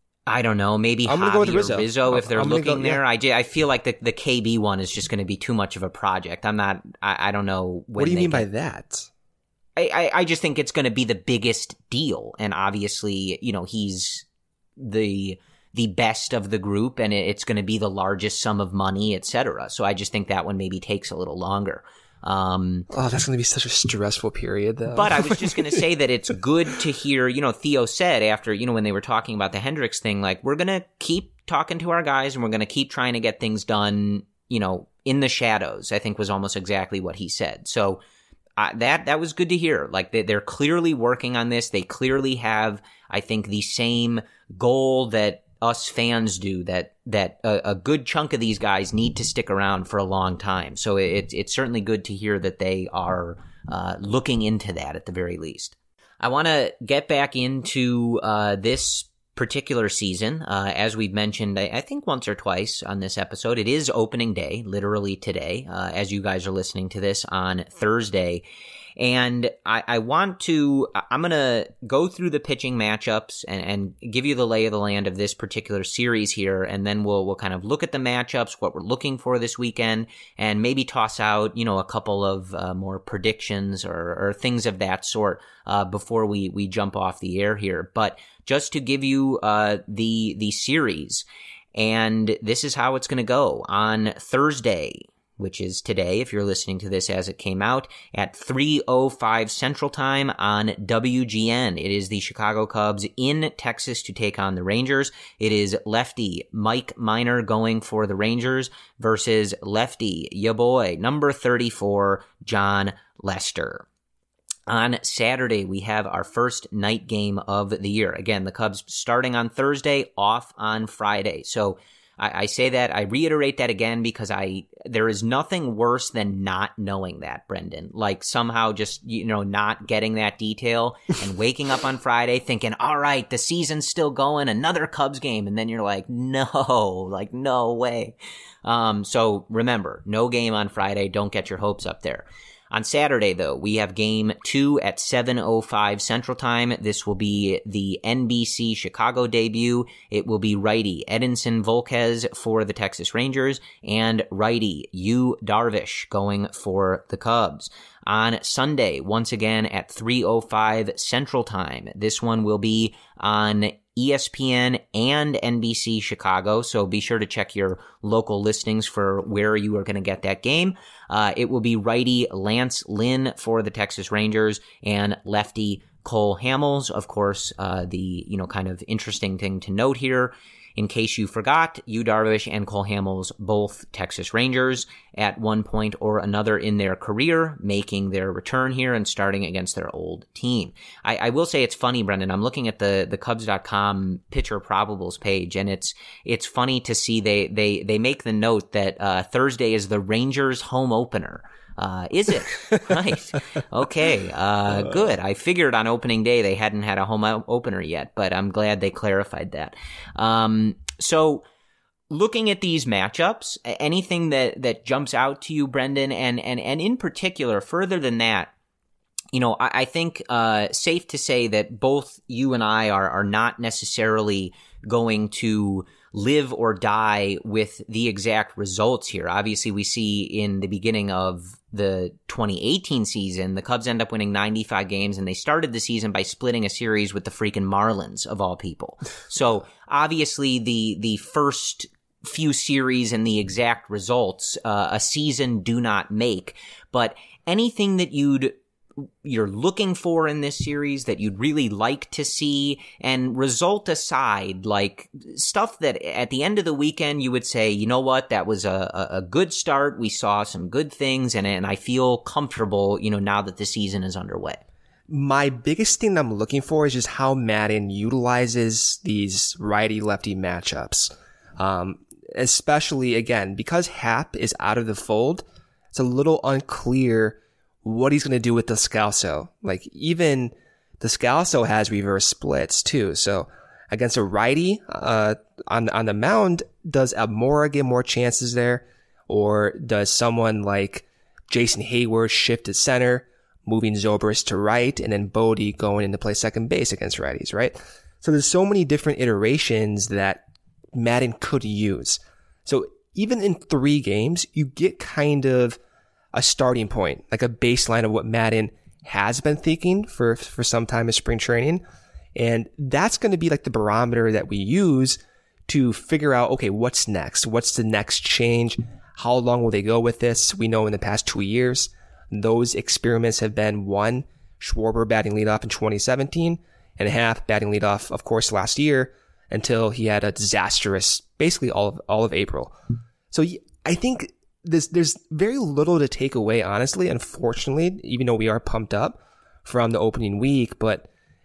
I don't know. Maybe I'm gonna Javi go with or Rizzo. Rizzo if they're I'm looking go, there. yeah. I, j- I feel like the, the K B one is just going to be too much of a project. I'm not, I, I don't know. When what do you they mean get, by that? I, I, I just think it's going to be the biggest deal. And obviously, you know, he's the, the best of the group and it's going to be the largest sum of money, et cetera. So I just think that one maybe takes a little longer. Um, oh, that's going to be such a stressful period, though. But I was just going to say that it's good to hear, you know, Theo said after, you know, when they were talking about the Hendricks thing, like, we're going to keep talking to our guys and we're going to keep trying to get things done, you know, in the shadows, I think was almost exactly what he said. So uh, that, that was good to hear. Like, they, they're clearly working on this. They clearly have, I think, the same goal that us fans do, that that a, a good chunk of these guys need to stick around for a long time. So it, it's certainly good to hear that they are uh, looking into that at the very least. I want to get back into uh, this particular season. Uh, as we've mentioned, I, I think once or twice on this episode, it is opening day, literally today, uh, as you guys are listening to this on Thursday. And I, I want to, I'm going to go through the pitching matchups and, and give you the lay of the land of this particular series here. And then we'll, we'll kind of look at the matchups, what we're looking for this weekend, and maybe toss out, you know, a couple of uh, more predictions or, or things of that sort, uh, before we, we jump off the air here. But just to give you, uh, the, the series, and this is how it's going to go on Thursday, which is today, if you're listening to this as it came out, at three oh five Central Time on W G N. It is the Chicago Cubs in Texas to take on the Rangers. It is lefty Mike Minor going for the Rangers versus lefty, ya boy, number thirty-four, Jon Lester. On Saturday, we have our first night game of the year. Again, the Cubs starting on Thursday, off on Friday. So I, I say that, I reiterate that again because I there is nothing worse than not knowing that, Brendan. Like somehow just, you know, not getting that detail and waking up on Friday thinking, all right, the season's still going, another Cubs game. And then you're like, no, like no way. Um, so remember, no game on Friday. Don't get your hopes up there. On Saturday, though, we have game two at seven oh five Central Time. This will be the N B C Chicago debut. It will be righty Edinson Volquez for the Texas Rangers and righty Yu Darvish going for the Cubs. On Sunday, once again at three oh five Central Time. This one will be on E S P N and N B C Chicago, so be sure to check your local listings for where you are going to get that game. Uh, it will be righty Lance Lynn for the Texas Rangers and lefty Cole Hamels. Of course, uh, the, you know, kind of interesting thing to note here, in case you forgot, Yu Darvish and Cole Hamels, both Texas Rangers at one point or another in their career, making their return here and starting against their old team. I, I will say it's funny, Brendan. I'm looking at the, the Cubs dot com pitcher probables page, and it's it's funny to see they they they make the note that uh, Thursday is the Rangers home opener. Uh, is it? Right. Okay. Uh, good. I figured on opening day they hadn't had a home opener yet, but I'm glad they clarified that. Um, so looking at these matchups, anything that, that jumps out to you, Brendan, and, and, and in particular, further than that, you know, I, I think, uh, safe to say that both you and I are, are not necessarily going to live or die with the exact results here. Obviously, we see in the beginning of the twenty eighteen season, the Cubs end up winning ninety-five games, and they started the season by splitting a series with the freaking Marlins, of all people. So obviously, the the first few series and the exact results, uh, a season do not make. But anything that you'd you're looking for in this series that you'd really like to see, and result aside, like stuff that at the end of the weekend you would say, you know what, that was a, a good start. We saw some good things, and, and I feel comfortable, you know, now that the season is underway. My biggest thing that I'm looking for is just how Maddon utilizes these righty-lefty matchups. Um, especially, again, because Happ is out of the fold, it's a little unclear what he's going to do with Descalso. Like, even Descalso has reverse splits too. So against a righty, uh, on, on the mound, does Almora get more chances there? Or does someone like Jason Hayward shift to center, moving Zobrist to right, and then Bodie going in to play second base against righties, right? So there's so many different iterations that Maddon could use. So even in three games, you get kind of a starting point, like a baseline of what Maddon has been thinking for, for some time in spring training. And that's going to be like the barometer that we use to figure out, okay, what's next? What's the next change? How long will they go with this? We know in the past two years, those experiments have been one, Schwarber batting leadoff in twenty seventeen, and Happ batting leadoff, of course, last year, until he had a disastrous, basically all of, all of April. So I think This, there's very little to take away, honestly, unfortunately, even though we are pumped up from the opening week. But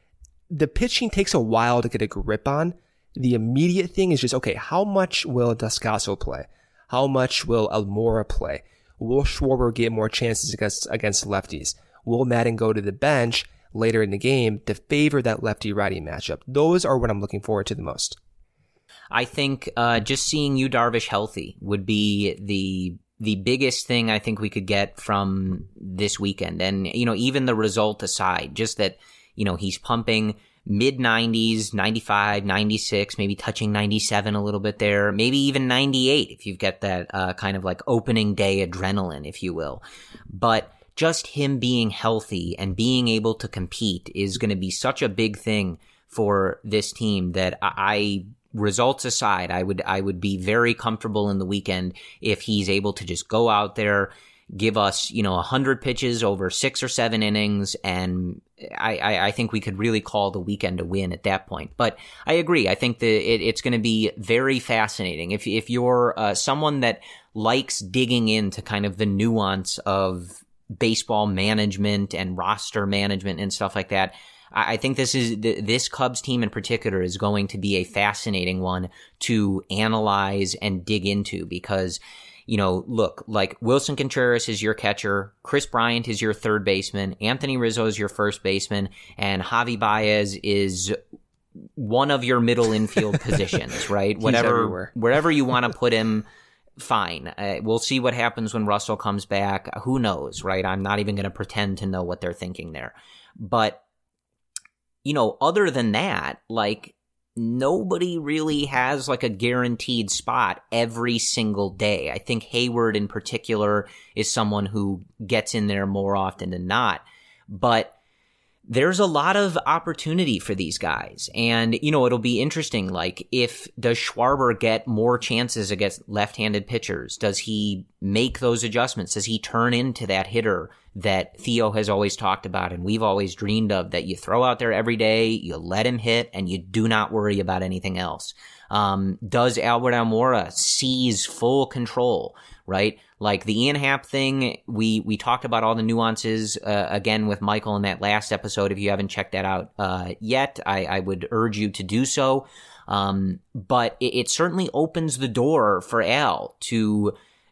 the pitching takes a while to get a grip on. The immediate thing is just, okay, how much will Descalso play? How much will Almora play? Will Schwarber get more chances against, against lefties? Will Maddon go to the bench later in the game to favor that lefty-righty matchup? Those are what I'm looking forward to the most. I think uh, just seeing Yu Darvish healthy would be the the biggest thing I think we could get from this weekend. And, you know, even the result aside, just that, you know, he's pumping mid nineties, ninety-five, ninety-six, maybe touching ninety-seven a little bit there, maybe even ninety-eight if you've got that uh, kind of like opening day adrenaline, if you will. But just him being healthy and being able to compete is going to be such a big thing for this team that I, results aside, I would I would be very comfortable in the weekend if he's able to just go out there, give us, you know, one hundred pitches over six or seven innings, and I, I, I think we could really call the weekend a win at that point. But I agree. I think that it, it's going to be very fascinating. If, if you're uh, someone that likes digging into kind of the nuance of baseball management and roster management and stuff like that, I think this is this Cubs team in particular is going to be a fascinating one to analyze and dig into because, you know, look, like Wilson Contreras is your catcher, Chris Bryant is your third baseman, Anthony Rizzo is your first baseman, and Javi Baez is one of your middle infield positions, right? He's Whatever, everywhere. wherever you want to put him. fine. Uh, we'll see what happens when Russell comes back. Who knows, right? I'm not even going to pretend to know what they're thinking there. But, you know, other than that, like, nobody really has like a guaranteed spot every single day. I think Hayward in particular is someone who gets in there more often than not. But there's a lot of opportunity for these guys. And, you know, it'll be interesting. Like, if does Schwarber get more chances against left-handed pitchers? Does he make those adjustments? Does he turn into that hitter that Theo has always talked about and we've always dreamed of, that you throw out there every day, you let him hit, and you do not worry about anything else? Um, does Albert Almora seize full control, right? Like the Ian Happ thing, we, we talked about all the nuances, uh, again with Michael in that last episode. If you haven't checked that out, uh, yet, I, I would urge you to do so. Um, but it, it certainly opens the door for Al to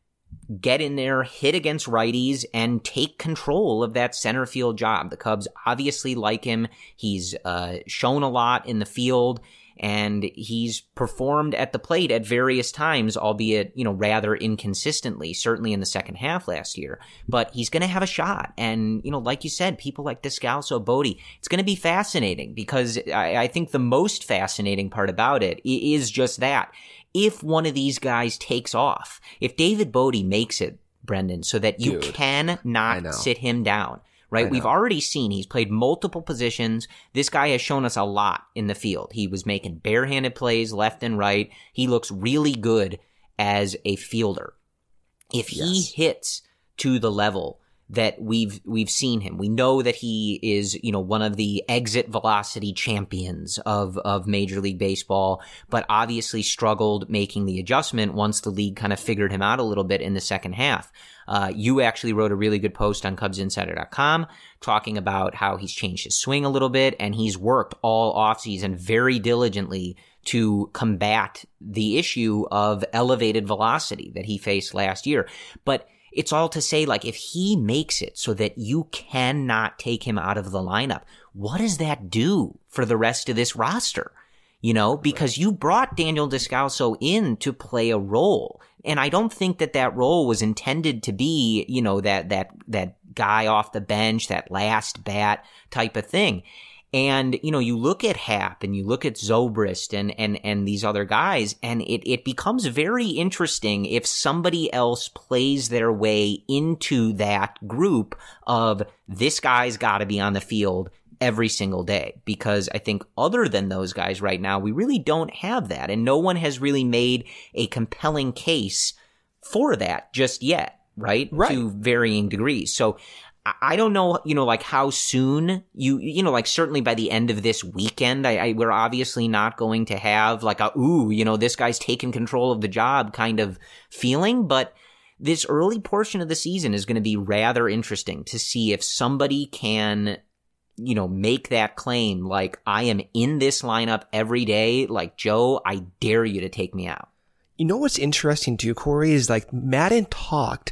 get in there, hit against righties, and take control of that center field job. The Cubs obviously like him. He's, uh, shown a lot in the field, and he's performed at the plate at various times, albeit, you know, rather inconsistently, certainly in the second half last year. But he's going to have a shot. And, you know, like you said, people like Descalso, Bodie, it's going to be fascinating, because I, I think the most fascinating part about it is just that. If one of these guys takes off, if David Bodie makes it, Brendan, so that you Dude, cannot sit him down, right? We've already seen he's played multiple positions. This guy has shown us a lot in the field. He was making barehanded plays left and right. He looks really good as a fielder. If he Yes. hits to the level that we've we've seen him, we know that he is, you know, one of the exit velocity champions of of Major League Baseball, but obviously struggled making the adjustment once the league kind of figured him out a little bit in the second half. Uh, you actually wrote a really good post on Cubs Insider dot com talking about how he's changed his swing a little bit, and he's worked all offseason very diligently to combat the issue of elevated velocity that he faced last year. But it's all to say, like, if he makes it so that you cannot take him out of the lineup, what does that do for the rest of this roster? You know, because you brought Daniel Descalso in to play a role. And I don't think that that role was intended to be, you know, that, that, that guy off the bench, that last bat type of thing. And, you know, you look at Happ and you look at Zobrist and, and, and these other guys, and it, it becomes very interesting if somebody else plays their way into that group of this guy's got to be on the field every single day. Because I think other than those guys right now, we really don't have that. And no one has really made a compelling case for that just yet, right? Right. To varying degrees. So I don't know, you know, like how soon you, you know, like certainly by the end of this weekend, I, I we're obviously not going to have like a, ooh, you know, this guy's taken control of the job kind of feeling. But this early portion of the season is going to be rather interesting to see if somebody can, you know, make that claim. Like, I am in this lineup every day. Like, Joe, I dare you to take me out. You know what's interesting too, Corey, is like Madden talked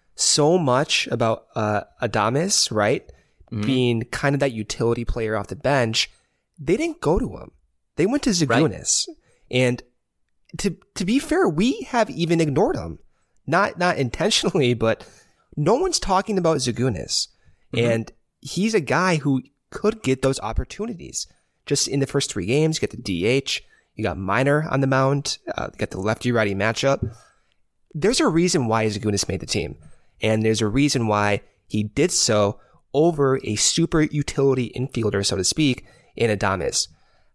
so much about uh, Adames, right? Mm-hmm. Being kind of that utility player off the bench. They didn't go to him. They went to Zagunis. Right. And to to be fair, we have even ignored him. Not not intentionally, but no one's talking about Zagunis. Mm-hmm. And he's a guy who could get those opportunities. Just in the first three games, you get the D H. You got Minor on the mound. Uh, you got the lefty-righty matchup. There's a reason why Zagunis made the team. And there's a reason why he did so over a super utility infielder, so to speak, in Adames.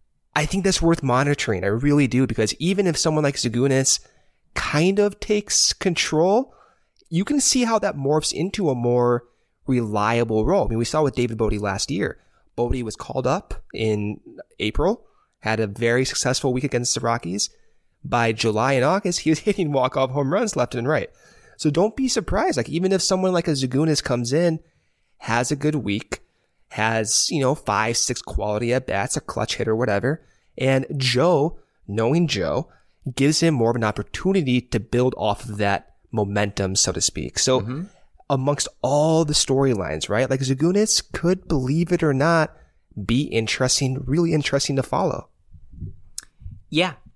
I think that's worth monitoring. I really do, because even if someone like Zagunis kind of takes control, you can see how that morphs into a more reliable role. I mean, we saw with David Bodie last year. Bodie was called up in April, had a very successful week against the Rockies. By July and August, he was hitting walk-off home runs left and right. So don't be surprised. Like, even if someone like a Zagunis comes in, has a good week, has, you know, five, six quality at-bats, a clutch hitter, whatever, and Joe, knowing Joe, gives him more of an opportunity to build off of that momentum, so to speak. So mm-hmm. amongst all the storylines, right, like Zagunis could, believe it or not, be interesting, really interesting to follow. Yeah.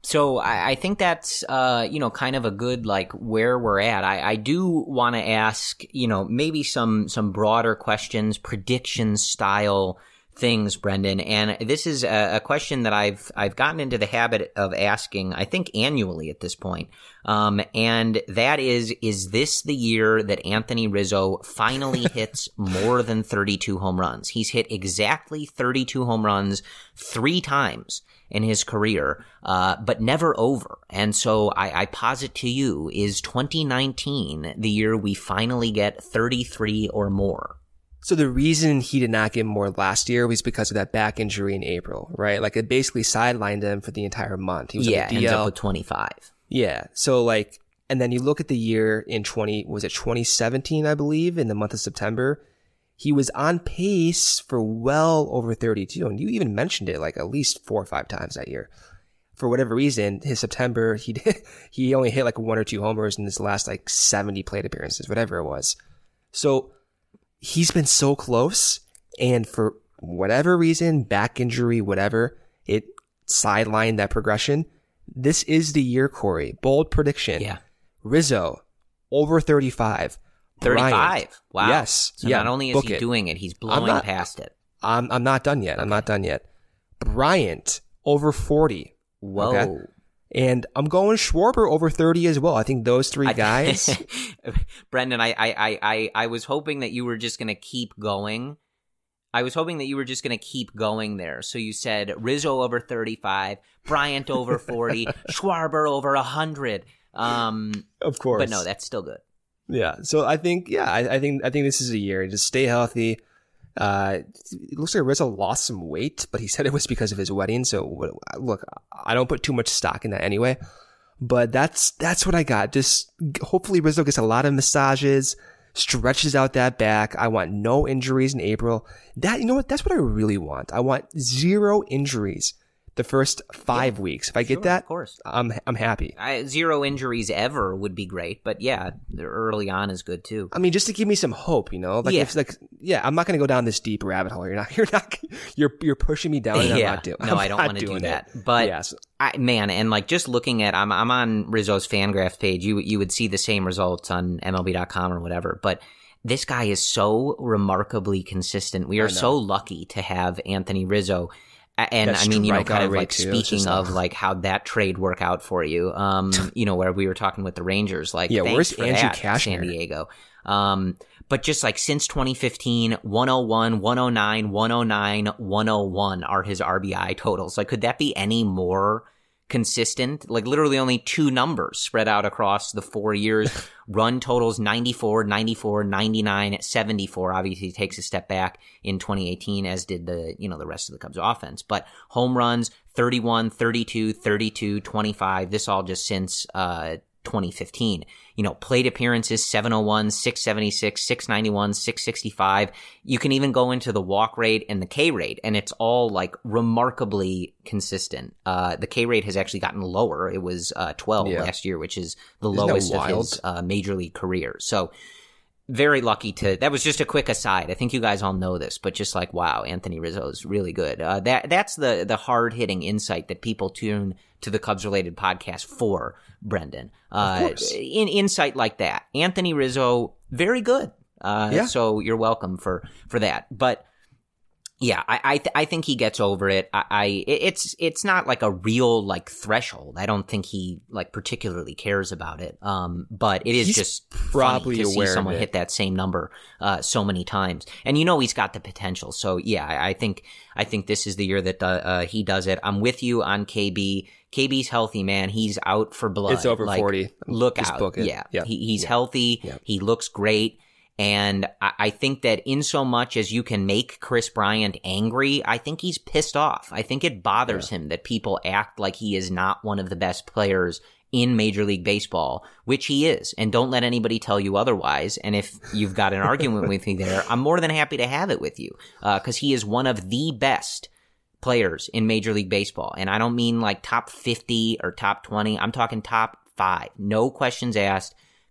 So I, I think that's, uh, you know, kind of a good, like, where we're at. I, I do want to ask, you know, maybe some, some broader questions, prediction style things, Brendan. And this is a, a question that I've, I've gotten into the habit of asking, I think annually at this point. Um, and that is, is this the year that Anthony Rizzo finally hits more than thirty-two home runs? He's hit exactly thirty-two home runs three times in his career, uh, but never over. And so I, I posit to you, is twenty nineteen the year we finally get thirty-three or more? So the reason he did not get more last year was because of that back injury in April, right? Like it basically sidelined him for the entire month. He was yeah, on the D L. ends up with twenty-five. Yeah. So like, and then you look at the year in twenty, was it twenty seventeen, I believe, in the month of September, he was on pace for well over thirty-two. And you even mentioned it like at least four or five times that year. For whatever reason, his September, he did, he only hit like one or two homers in his last like seventy plate appearances, whatever it was. So he's been so close, and for whatever reason, back injury, whatever, it sidelined that progression. This is the year, Corey. Bold prediction. Yeah. Rizzo, over thirty-five. thirty-five. Bryant, Wow. Yes. So yeah, not only is book he it. doing it, he's blowing not- past it. I'm I'm not done yet. I'm not done yet. Bryant, over forty. Whoa. Okay? And I'm going Schwarber over thirty as well. I think those three guys. Brendan, I, I, I, I was hoping that you were just going to keep going. I was hoping that you were just going to keep going there. So you said Rizzo over thirty-five, Bryant over forty, Schwarber over one hundred. Um, Of course. But no, that's still good. Yeah. So I think, yeah, I, I think, I think this is a year. Just stay healthy. Uh, it looks like Rizzo lost some weight, but he said it was because of his wedding. So look, I don't put too much stock in that anyway, but that's, that's what I got. Just hopefully Rizzo gets a lot of massages, stretches out that back. I want no injuries in April. That, you know what? That's what I really want. I want zero injuries the first five yeah, weeks. If I get sure, that, of course. I'm I'm happy. I, zero injuries ever would be great, but yeah, early on is good too. I mean, just to give me some hope, you know, like yeah. if like yeah, I'm not going to go down this deep rabbit hole. You're not, you're not, you're you're pushing me down. And yeah, I'm not doing. no, I'm I don't want to do that. It. But yes. I, man, and like just looking at, I'm I'm on Rizzo's Fangraphs page. You you would see the same results on M L B dot com or whatever, but. This guy is so remarkably consistent. We are so lucky to have Anthony Rizzo. And That's I mean, you know, kind of rate like too. speaking of a... like how that trade work out for you, um, you know, where we were talking with the Rangers, like, yeah, thanks where's for Andrew that, Cashmere? San Diego. Um, but just like since twenty fifteen, one oh one, one oh nine, one oh nine, one oh one are his R B I totals. Like, could that be any more consistent? Like literally only two numbers spread out across the four years. Run totals ninety-four, ninety-four, ninety-nine, seventy-four. Obviously he takes a step back in twenty eighteen, as did the, you know, the rest of the Cubs offense. But home runs, thirty-one, thirty-two, thirty-two, twenty-five. This all just since, uh, twenty fifteen. You know, plate appearances, seven oh one, six seventy-six, six ninety-one, six sixty-five. You can even go into the walk rate and the K rate, and it's all like remarkably consistent. Uh, the K rate has actually gotten lower. It was, uh, twelve yeah. last year, which is the Isn't lowest of his, uh, major league career. So very lucky to, that was just a quick aside. I think you guys all know this, but just like, wow, Anthony Rizzo is really good. Uh, that, that's the, the hard hitting insight that people tune to the Cubs related podcast for, Brendan. Uh, of course. In insight like that. Anthony Rizzo, very good. Uh, yeah. So you're welcome for, for that. But yeah, I, I, th- I think he gets over it. I, I, it's, it's not like a real like threshold. I don't think he like particularly cares about it. Um, but it is he's just probably funny to aware see someone of it. hit that same number, uh, so many times. And you know, he's got the potential. So yeah, I, I think, I think this is the year that, uh, uh, he does it. I'm with you on K B. K B's healthy, man. He's out for blood. It's over like, forty. Look Just out. book it. Yeah. yeah. He, he's yeah. healthy. Yeah. He looks great. And I, I think that in so much as you can make Chris Bryant angry, I think he's pissed off. I think it bothers yeah. him that people act like he is not one of the best players in Major League Baseball, which he is. And don't let anybody tell you otherwise. And if you've got an argument with me there, I'm more than happy to have it with you, uh, because he is one of the best players in Major League Baseball. And I don't mean like top fifty or top twenty. I'm talking top five. No questions asked.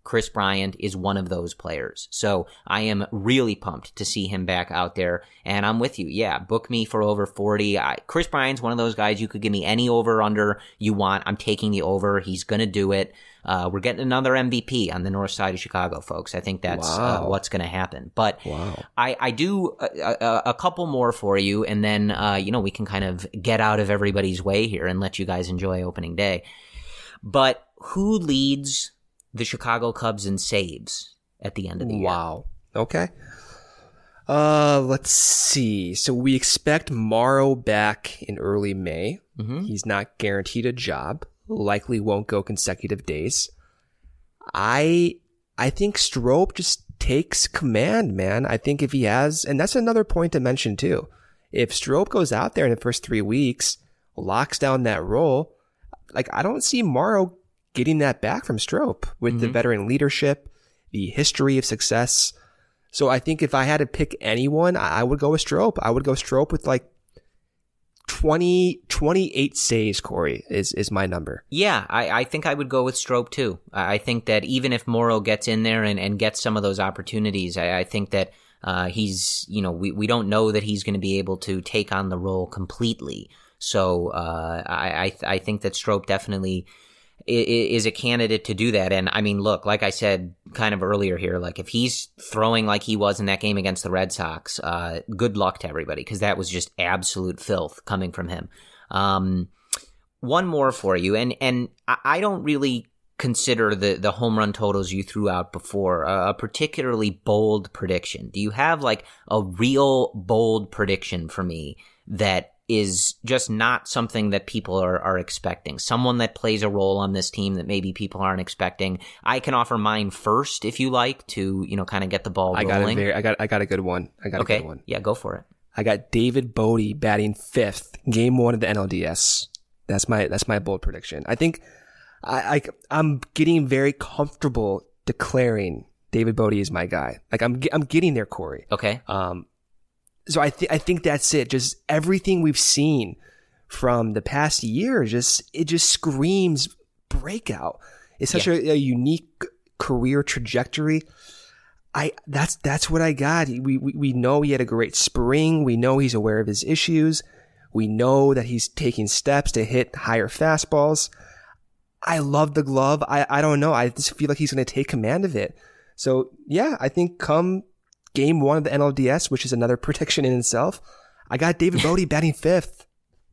Chris Bryant is one of those players. So I am really pumped to see him back out there. And I'm with you. Yeah, book me for over forty. I, Chris Bryant's one of those guys, you could give me any over under you want. I'm taking the over. He's going to do it. Uh, we're getting another M V P on the north side of Chicago, folks. I think that's wow. uh, what's going to happen. But wow. I, I do a, a, a couple more for you, and then, uh, you know, we can kind of get out of everybody's way here and let you guys enjoy opening day. But who leads the Chicago Cubs in saves at the end of the year? Wow. Okay. Uh, let's see. So we expect Morrow back in early May. Mm-hmm. He's not guaranteed a job. Likely won't go consecutive days. I I think Strop just takes command, man. I think if he has, and that's another point to mention too. If Strop goes out there in the first three weeks, locks down that role, like I don't see Morrow getting that back from Strop with mm-hmm. the veteran leadership, the history of success. So I think if I had to pick anyone, I would go with Strop. I would go Strop with like twenty, twenty-eight saves, Corey, is, is my number. Yeah, I, I think I would go with Strop too. I think that even if Morrow gets in there and, and gets some of those opportunities, I, I think that uh, he's, you know, we, we don't know that he's going to be able to take on the role completely. So uh, I, I I think that Strop definitely is a candidate to do that. And I mean, look, like I said kind of earlier here, like if he's throwing like he was in that game against the Red Sox, uh, good luck to everybody, because that was just absolute filth coming from him. Um, one more for you, and and I don't really consider the the home run totals you threw out before a, a particularly bold prediction. Do you have like a real bold prediction for me that is just not something that people are, are expecting? Someone that plays a role on this team that maybe people aren't expecting. I can offer mine first if you like to, you know, kind of get the ball I rolling. Got a very, I got I got a good one. I got okay. a good one. Yeah, go for it. I got David Bodie batting fifth, game one of the N L D S. That's my that's my bold prediction. I think I, I I'm getting very comfortable declaring David Bodie is my guy. Like I'm I'm getting there, Corey. Okay. Um. So I think I think that's it. Just everything we've seen from the past year, just it just screams breakout. It's such yeah. a, a unique career trajectory. I that's that's what I got. We, we we know he had a great spring. We know he's aware of his issues. We know that he's taking steps to hit higher fastballs. I love the glove. I I don't know. I just feel like he's going to take command of it. So yeah, I think come game one of the N L D S, which is another prediction in itself, I got David Bodie batting fifth.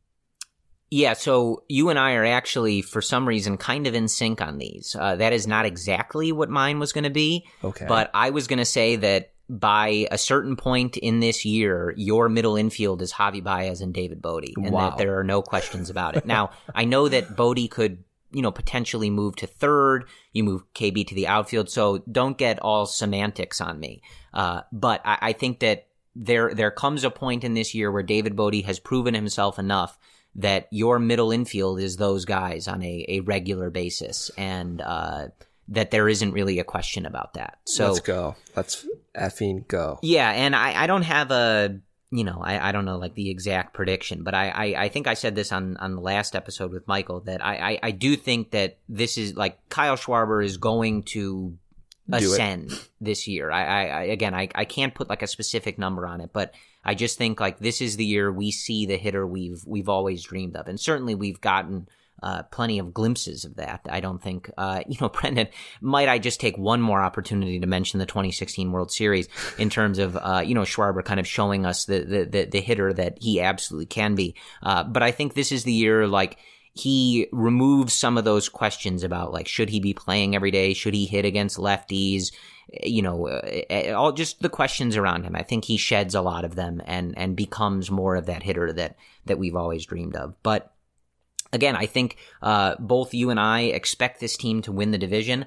Yeah, so you and I are actually, for some reason, kind of in sync on these. Uh, that is not exactly what mine was going to be. Okay. But I was going to say that by a certain point in this year, your middle infield is Javi Baez and David Bodie, and wow. that there are no questions about it. Now, I know that Bodie could, you know, potentially move to third. You move K B to the outfield, so don't get all semantics on me. Uh, but I, I think that there there comes a point in this year where David Bodie has proven himself enough that your middle infield is those guys on a, a regular basis, and uh, that there isn't really a question about that. So let's go. Let's effing go. Yeah, and I, I don't have a, you know, I, I don't know like the exact prediction, but I, I, I think I said this on, on the last episode with Michael that I, I, I do think that this is like Kyle Schwarber is going to ascend this year. I, I, I again, I, I can't put like a specific number on it, but I just think like this is the year we see the hitter we've we've always dreamed of, and certainly we've gotten uh, plenty of glimpses of that. I don't think, uh, you know, Brendan, might I just take one more opportunity to mention the twenty sixteen World Series in terms of, uh, you know, Schwarber kind of showing us the the the, the hitter that he absolutely can be. Uh, but I think this is the year like. He removes some of those questions about like, should he be playing every day? Should he hit against lefties? You know, uh, all just the questions around him. I think he sheds a lot of them and, and becomes more of that hitter that, that we've always dreamed of. But again, I think, uh, both you and I expect this team to win the division.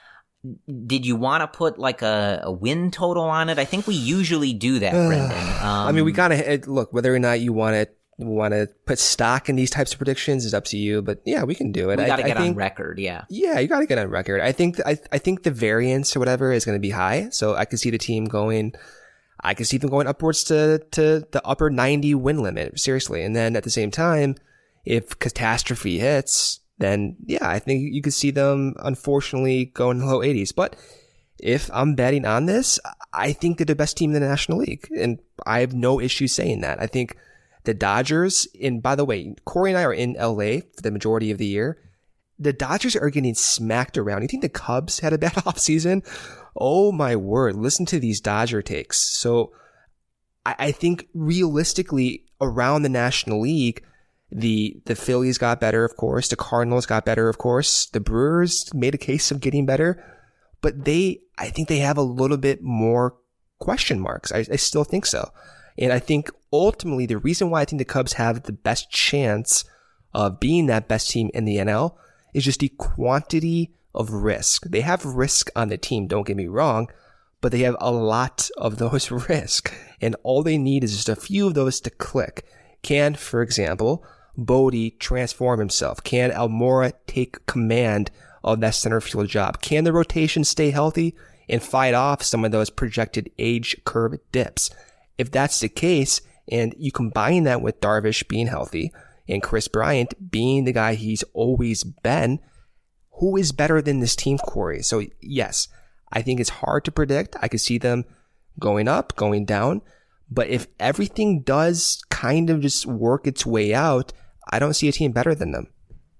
Did you want to put like a, a win total on it? I think we usually do that, Brendan. Um, I mean, we gotta look, whether or not you want to want to put stock in these types of predictions is up to you, but yeah, we can do it. We got to I, get I think, on record, yeah. Yeah, you got to get on record. I think I I think the variance or whatever is going to be high, so I could see the team going. I could see them going upwards to to the upper ninety win limit, seriously. And then at the same time, if catastrophe hits, then yeah, I think you could see them unfortunately go in the low eighties. But if I'm betting on this, I think they're the best team in the National League. And I have no issue saying that. I think the Dodgers, and by the way, Corey and I are in L A for the majority of the year. The Dodgers are getting smacked around. You think the Cubs had a bad offseason? Oh my word. Listen to these Dodger takes. So I, I think realistically around the National League, the the Phillies got better, of course. The Cardinals got better, of course. The Brewers made a case of getting better. But they, I think they have a little bit more question marks. I, I still think so. And I think ultimately the reason why I think the Cubs have the best chance of being that best team in the N L is just the quantity of risk. They have risk on the team, don't get me wrong, but they have a lot of those risks. And all they need is just a few of those to click. Can, for example, Bodie transform himself? Can Almora take command of that center field job? Can the rotation stay healthy and fight off some of those projected age curve dips? If that's the case, and you combine that with Darvish being healthy and Chris Bryant being the guy he's always been, who is better than this team, Corey? So yes, I think it's hard to predict. I could see them going up, going down. But if everything does kind of just work its way out, I don't see a team better than them.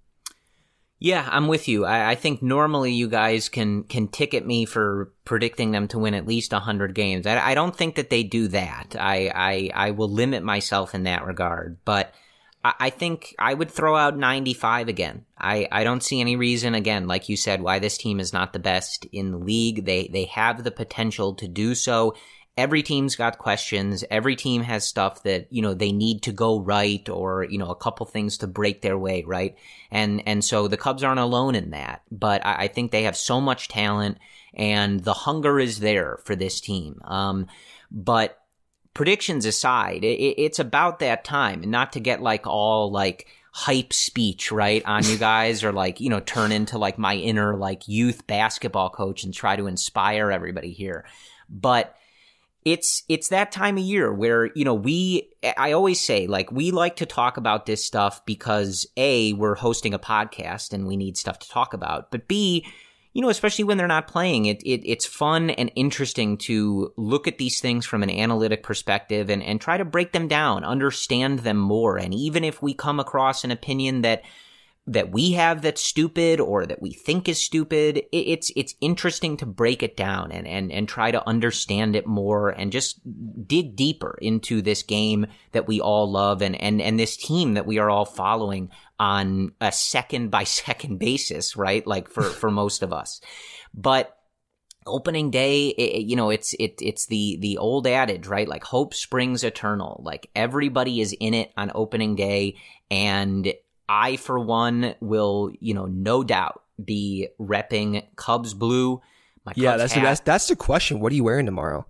Yeah, I'm with you. I, I think normally you guys can can ticket me for predicting them to win at least one hundred games. I, I don't think that they do that. I, I, I will limit myself in that regard. But I, I think I would throw out ninety-five again. I, I don't see any reason, again, like you said, why this team is not the best in the league. They They have the potential to do so. Every team's got questions. Every team has stuff that, you know, they need to go right, or, you know, a couple things to break their way, right? And, and so the Cubs aren't alone in that, but I, I think they have so much talent and the hunger is there for this team. Um, but predictions aside, it, it's about that time, and not to get like all like hype speech, right, on you guys, or like, you know, turn into like my inner like youth basketball coach and try to inspire everybody here. But It's it's that time of year where, you know, we, I always say, like, we like to talk about this stuff because, A, we're hosting a podcast and we need stuff to talk about. But B, you know, especially when they're not playing, it, it it's fun and interesting to look at these things from an analytic perspective and, and try to break them down, understand them more. And even if we come across an opinion that that we have that's stupid or that we think is stupid, it, it's it's interesting to break it down and, and, and try to understand it more and just dig deeper into this game that we all love and, and, and this team that we are all following on a second by second basis, right? Like for, for most of us. But opening day, it, you know, it's it it's the the old adage, right? Like hope springs eternal. Like everybody is in it on opening day, and I, for one, will, you know, no doubt be repping Cubs blue. My Cubs yeah, that's hat. the, that's that's the question. What are you wearing tomorrow?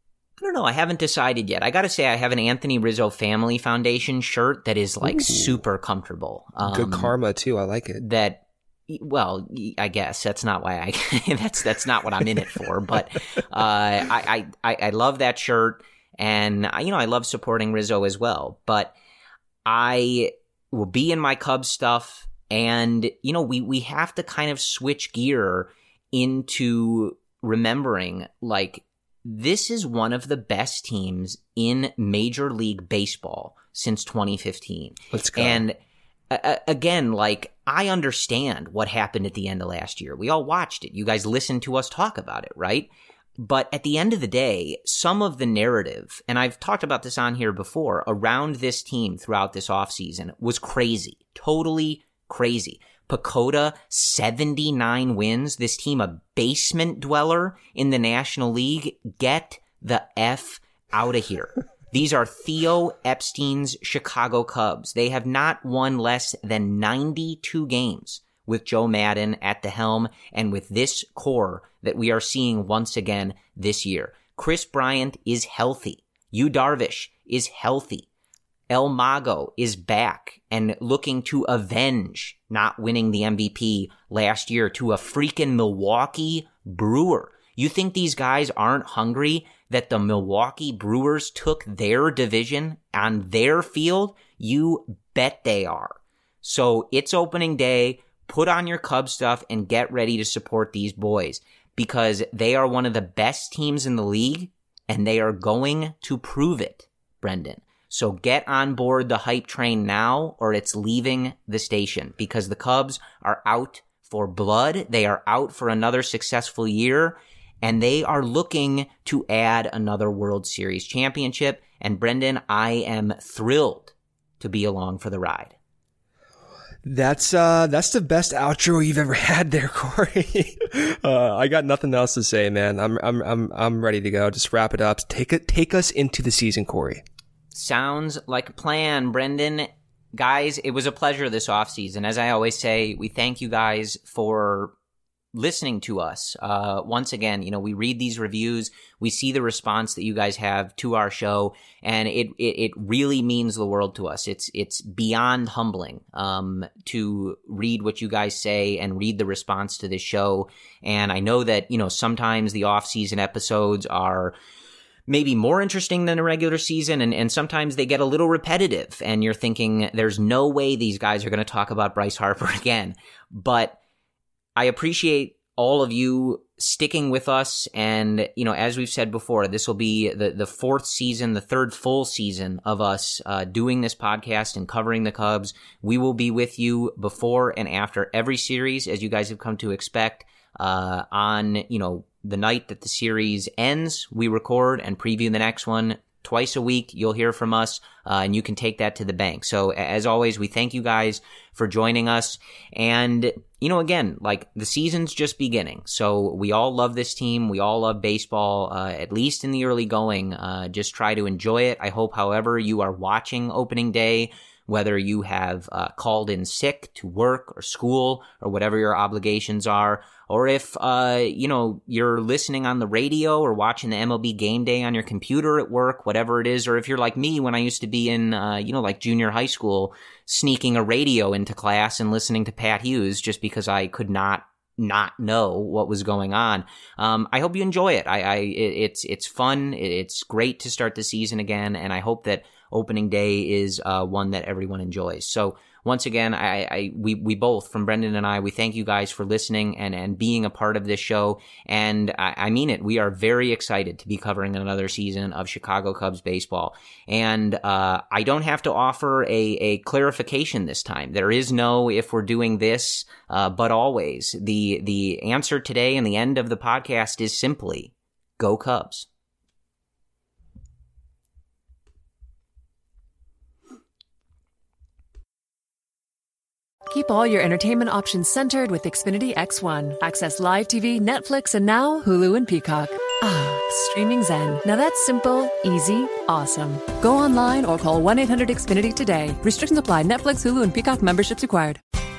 I don't know. I haven't decided yet. I got to say, I have an Anthony Rizzo Family Foundation shirt that is like Ooh. super comfortable. Um, Good karma too. I like it. That, well, I guess that's not why I. that's that's not what I'm in it for. But uh, I, I I love that shirt, and you know I love supporting Rizzo as well. But I will be in my Cubs stuff, and you know we we have to kind of switch gear into remembering, like, this is one of the best teams in Major League Baseball since twenty fifteen. Let's go. And uh, again, like, I understand what happened at the end of last year. We all watched it. You guys listened to us talk about it, right? But at the end of the day, some of the narrative, and I've talked about this on here before, around this team throughout this offseason was crazy. Totally crazy. PECOTA, seventy-nine wins. This team, a basement dweller in the National League. Get the F out of here. These are Theo Epstein's Chicago Cubs. They have not won less than ninety-two games with Joe Maddon at the helm and with this core that we are seeing once again this year. Chris Bryant is healthy. Yu Darvish is healthy. El Mago is back and looking to avenge not winning the M V P last year to a freaking Milwaukee Brewer. You think these guys aren't hungry that the Milwaukee Brewers took their division on their field? You bet they are. So it's opening day. put on your Cub stuff and get ready to support these boys because they are one of the best teams in the league and they are going to prove it, Brendan. So get on board the hype train now or it's leaving the station because the Cubs are out for blood. They are out for another successful year and they are looking to add another World Series championship. And Brendan, I am thrilled to be along for the ride. That's uh, that's the best outro you've ever had there, Corey. uh, I got nothing else to say, man. I'm I'm I'm I'm ready to go. Just wrap it up. Take it, take us into the season, Corey. Sounds like a plan, Brendan. Guys, it was a pleasure this offseason. As I always say, we thank you guys for listening to us. Uh, once again, you know, we read these reviews, we see the response that you guys have to our show, and it, it, it really means the world to us. It's, it's beyond humbling, um, to read what you guys say and read the response to this show. And I know that, you know, sometimes the off-season episodes are maybe more interesting than a regular season, and, and sometimes they get a little repetitive, and you're thinking, there's no way these guys are going to talk about Bryce Harper again. But I appreciate all of you sticking with us. And, you know, as we've said before, this will be the, the fourth season, the third full season of us uh, doing this podcast and covering the Cubs. We will be with you before and after every series, as you guys have come to expect. Uh, on, you know, the night that the series ends, we record and preview the next one. Twice a week, you'll hear from us, uh, and you can take that to the bank. So, as always, we thank you guys for joining us. And, you know, again, like, the season's just beginning. So, we all love this team. We all love baseball, uh, at least in the early going. Uh, just try to enjoy it. I hope, however, you are watching opening day, whether you have uh, called in sick to work or school or whatever your obligations are, or if, uh, you know, you're listening on the radio or watching the M L B Game Day on your computer at work, whatever it is, or if you're like me when I used to be in, uh, you know, like junior high school, sneaking a radio into class and listening to Pat Hughes just because I could not not know what was going on. Um, I hope you enjoy it. I, I it, it's it's fun. It's great to start the season again, and I hope that opening day is uh, one that everyone enjoys. So once again, I, I we we both, from Brendan and I, we thank you guys for listening and, and being a part of this show. And I, I mean it. We are very excited to be covering another season of Chicago Cubs baseball. And uh, I don't have to offer a, a clarification this time. There is no if we're doing this, uh, but always. The the answer today and the end of the podcast is simply go Cubs. Keep all your entertainment options centered with Xfinity X one. Access live T V, Netflix, and now Hulu and Peacock. Ah, streaming zen. Now that's simple, easy, awesome. Go online or call one eight hundred X Finity today. Restrictions apply. Netflix, Hulu, and Peacock memberships required.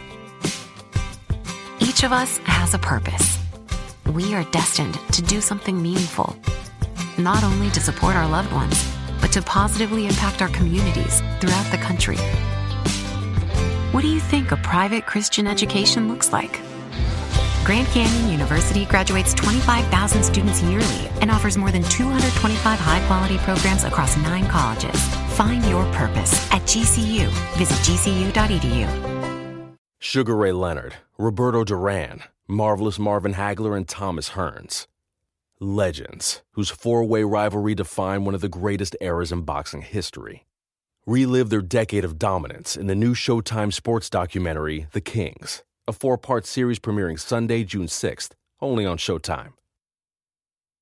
Each of us has a purpose. We are destined to do something meaningful. Not only to support our loved ones, but to positively impact our communities throughout the country. What do you think a private Christian education looks like? Grand Canyon University graduates twenty-five thousand students yearly and offers more than two hundred twenty-five high-quality programs across nine colleges. Find your purpose at G C U. Visit G C U dot E D U. Sugar Ray Leonard, Roberto Duran, Marvelous Marvin Hagler, and Thomas Hearns. Legends, whose four-way rivalry defined one of the greatest eras in boxing history. Relive their decade of dominance in the new Showtime sports documentary, The Kings, a four-part series premiering Sunday, June sixth, only on Showtime.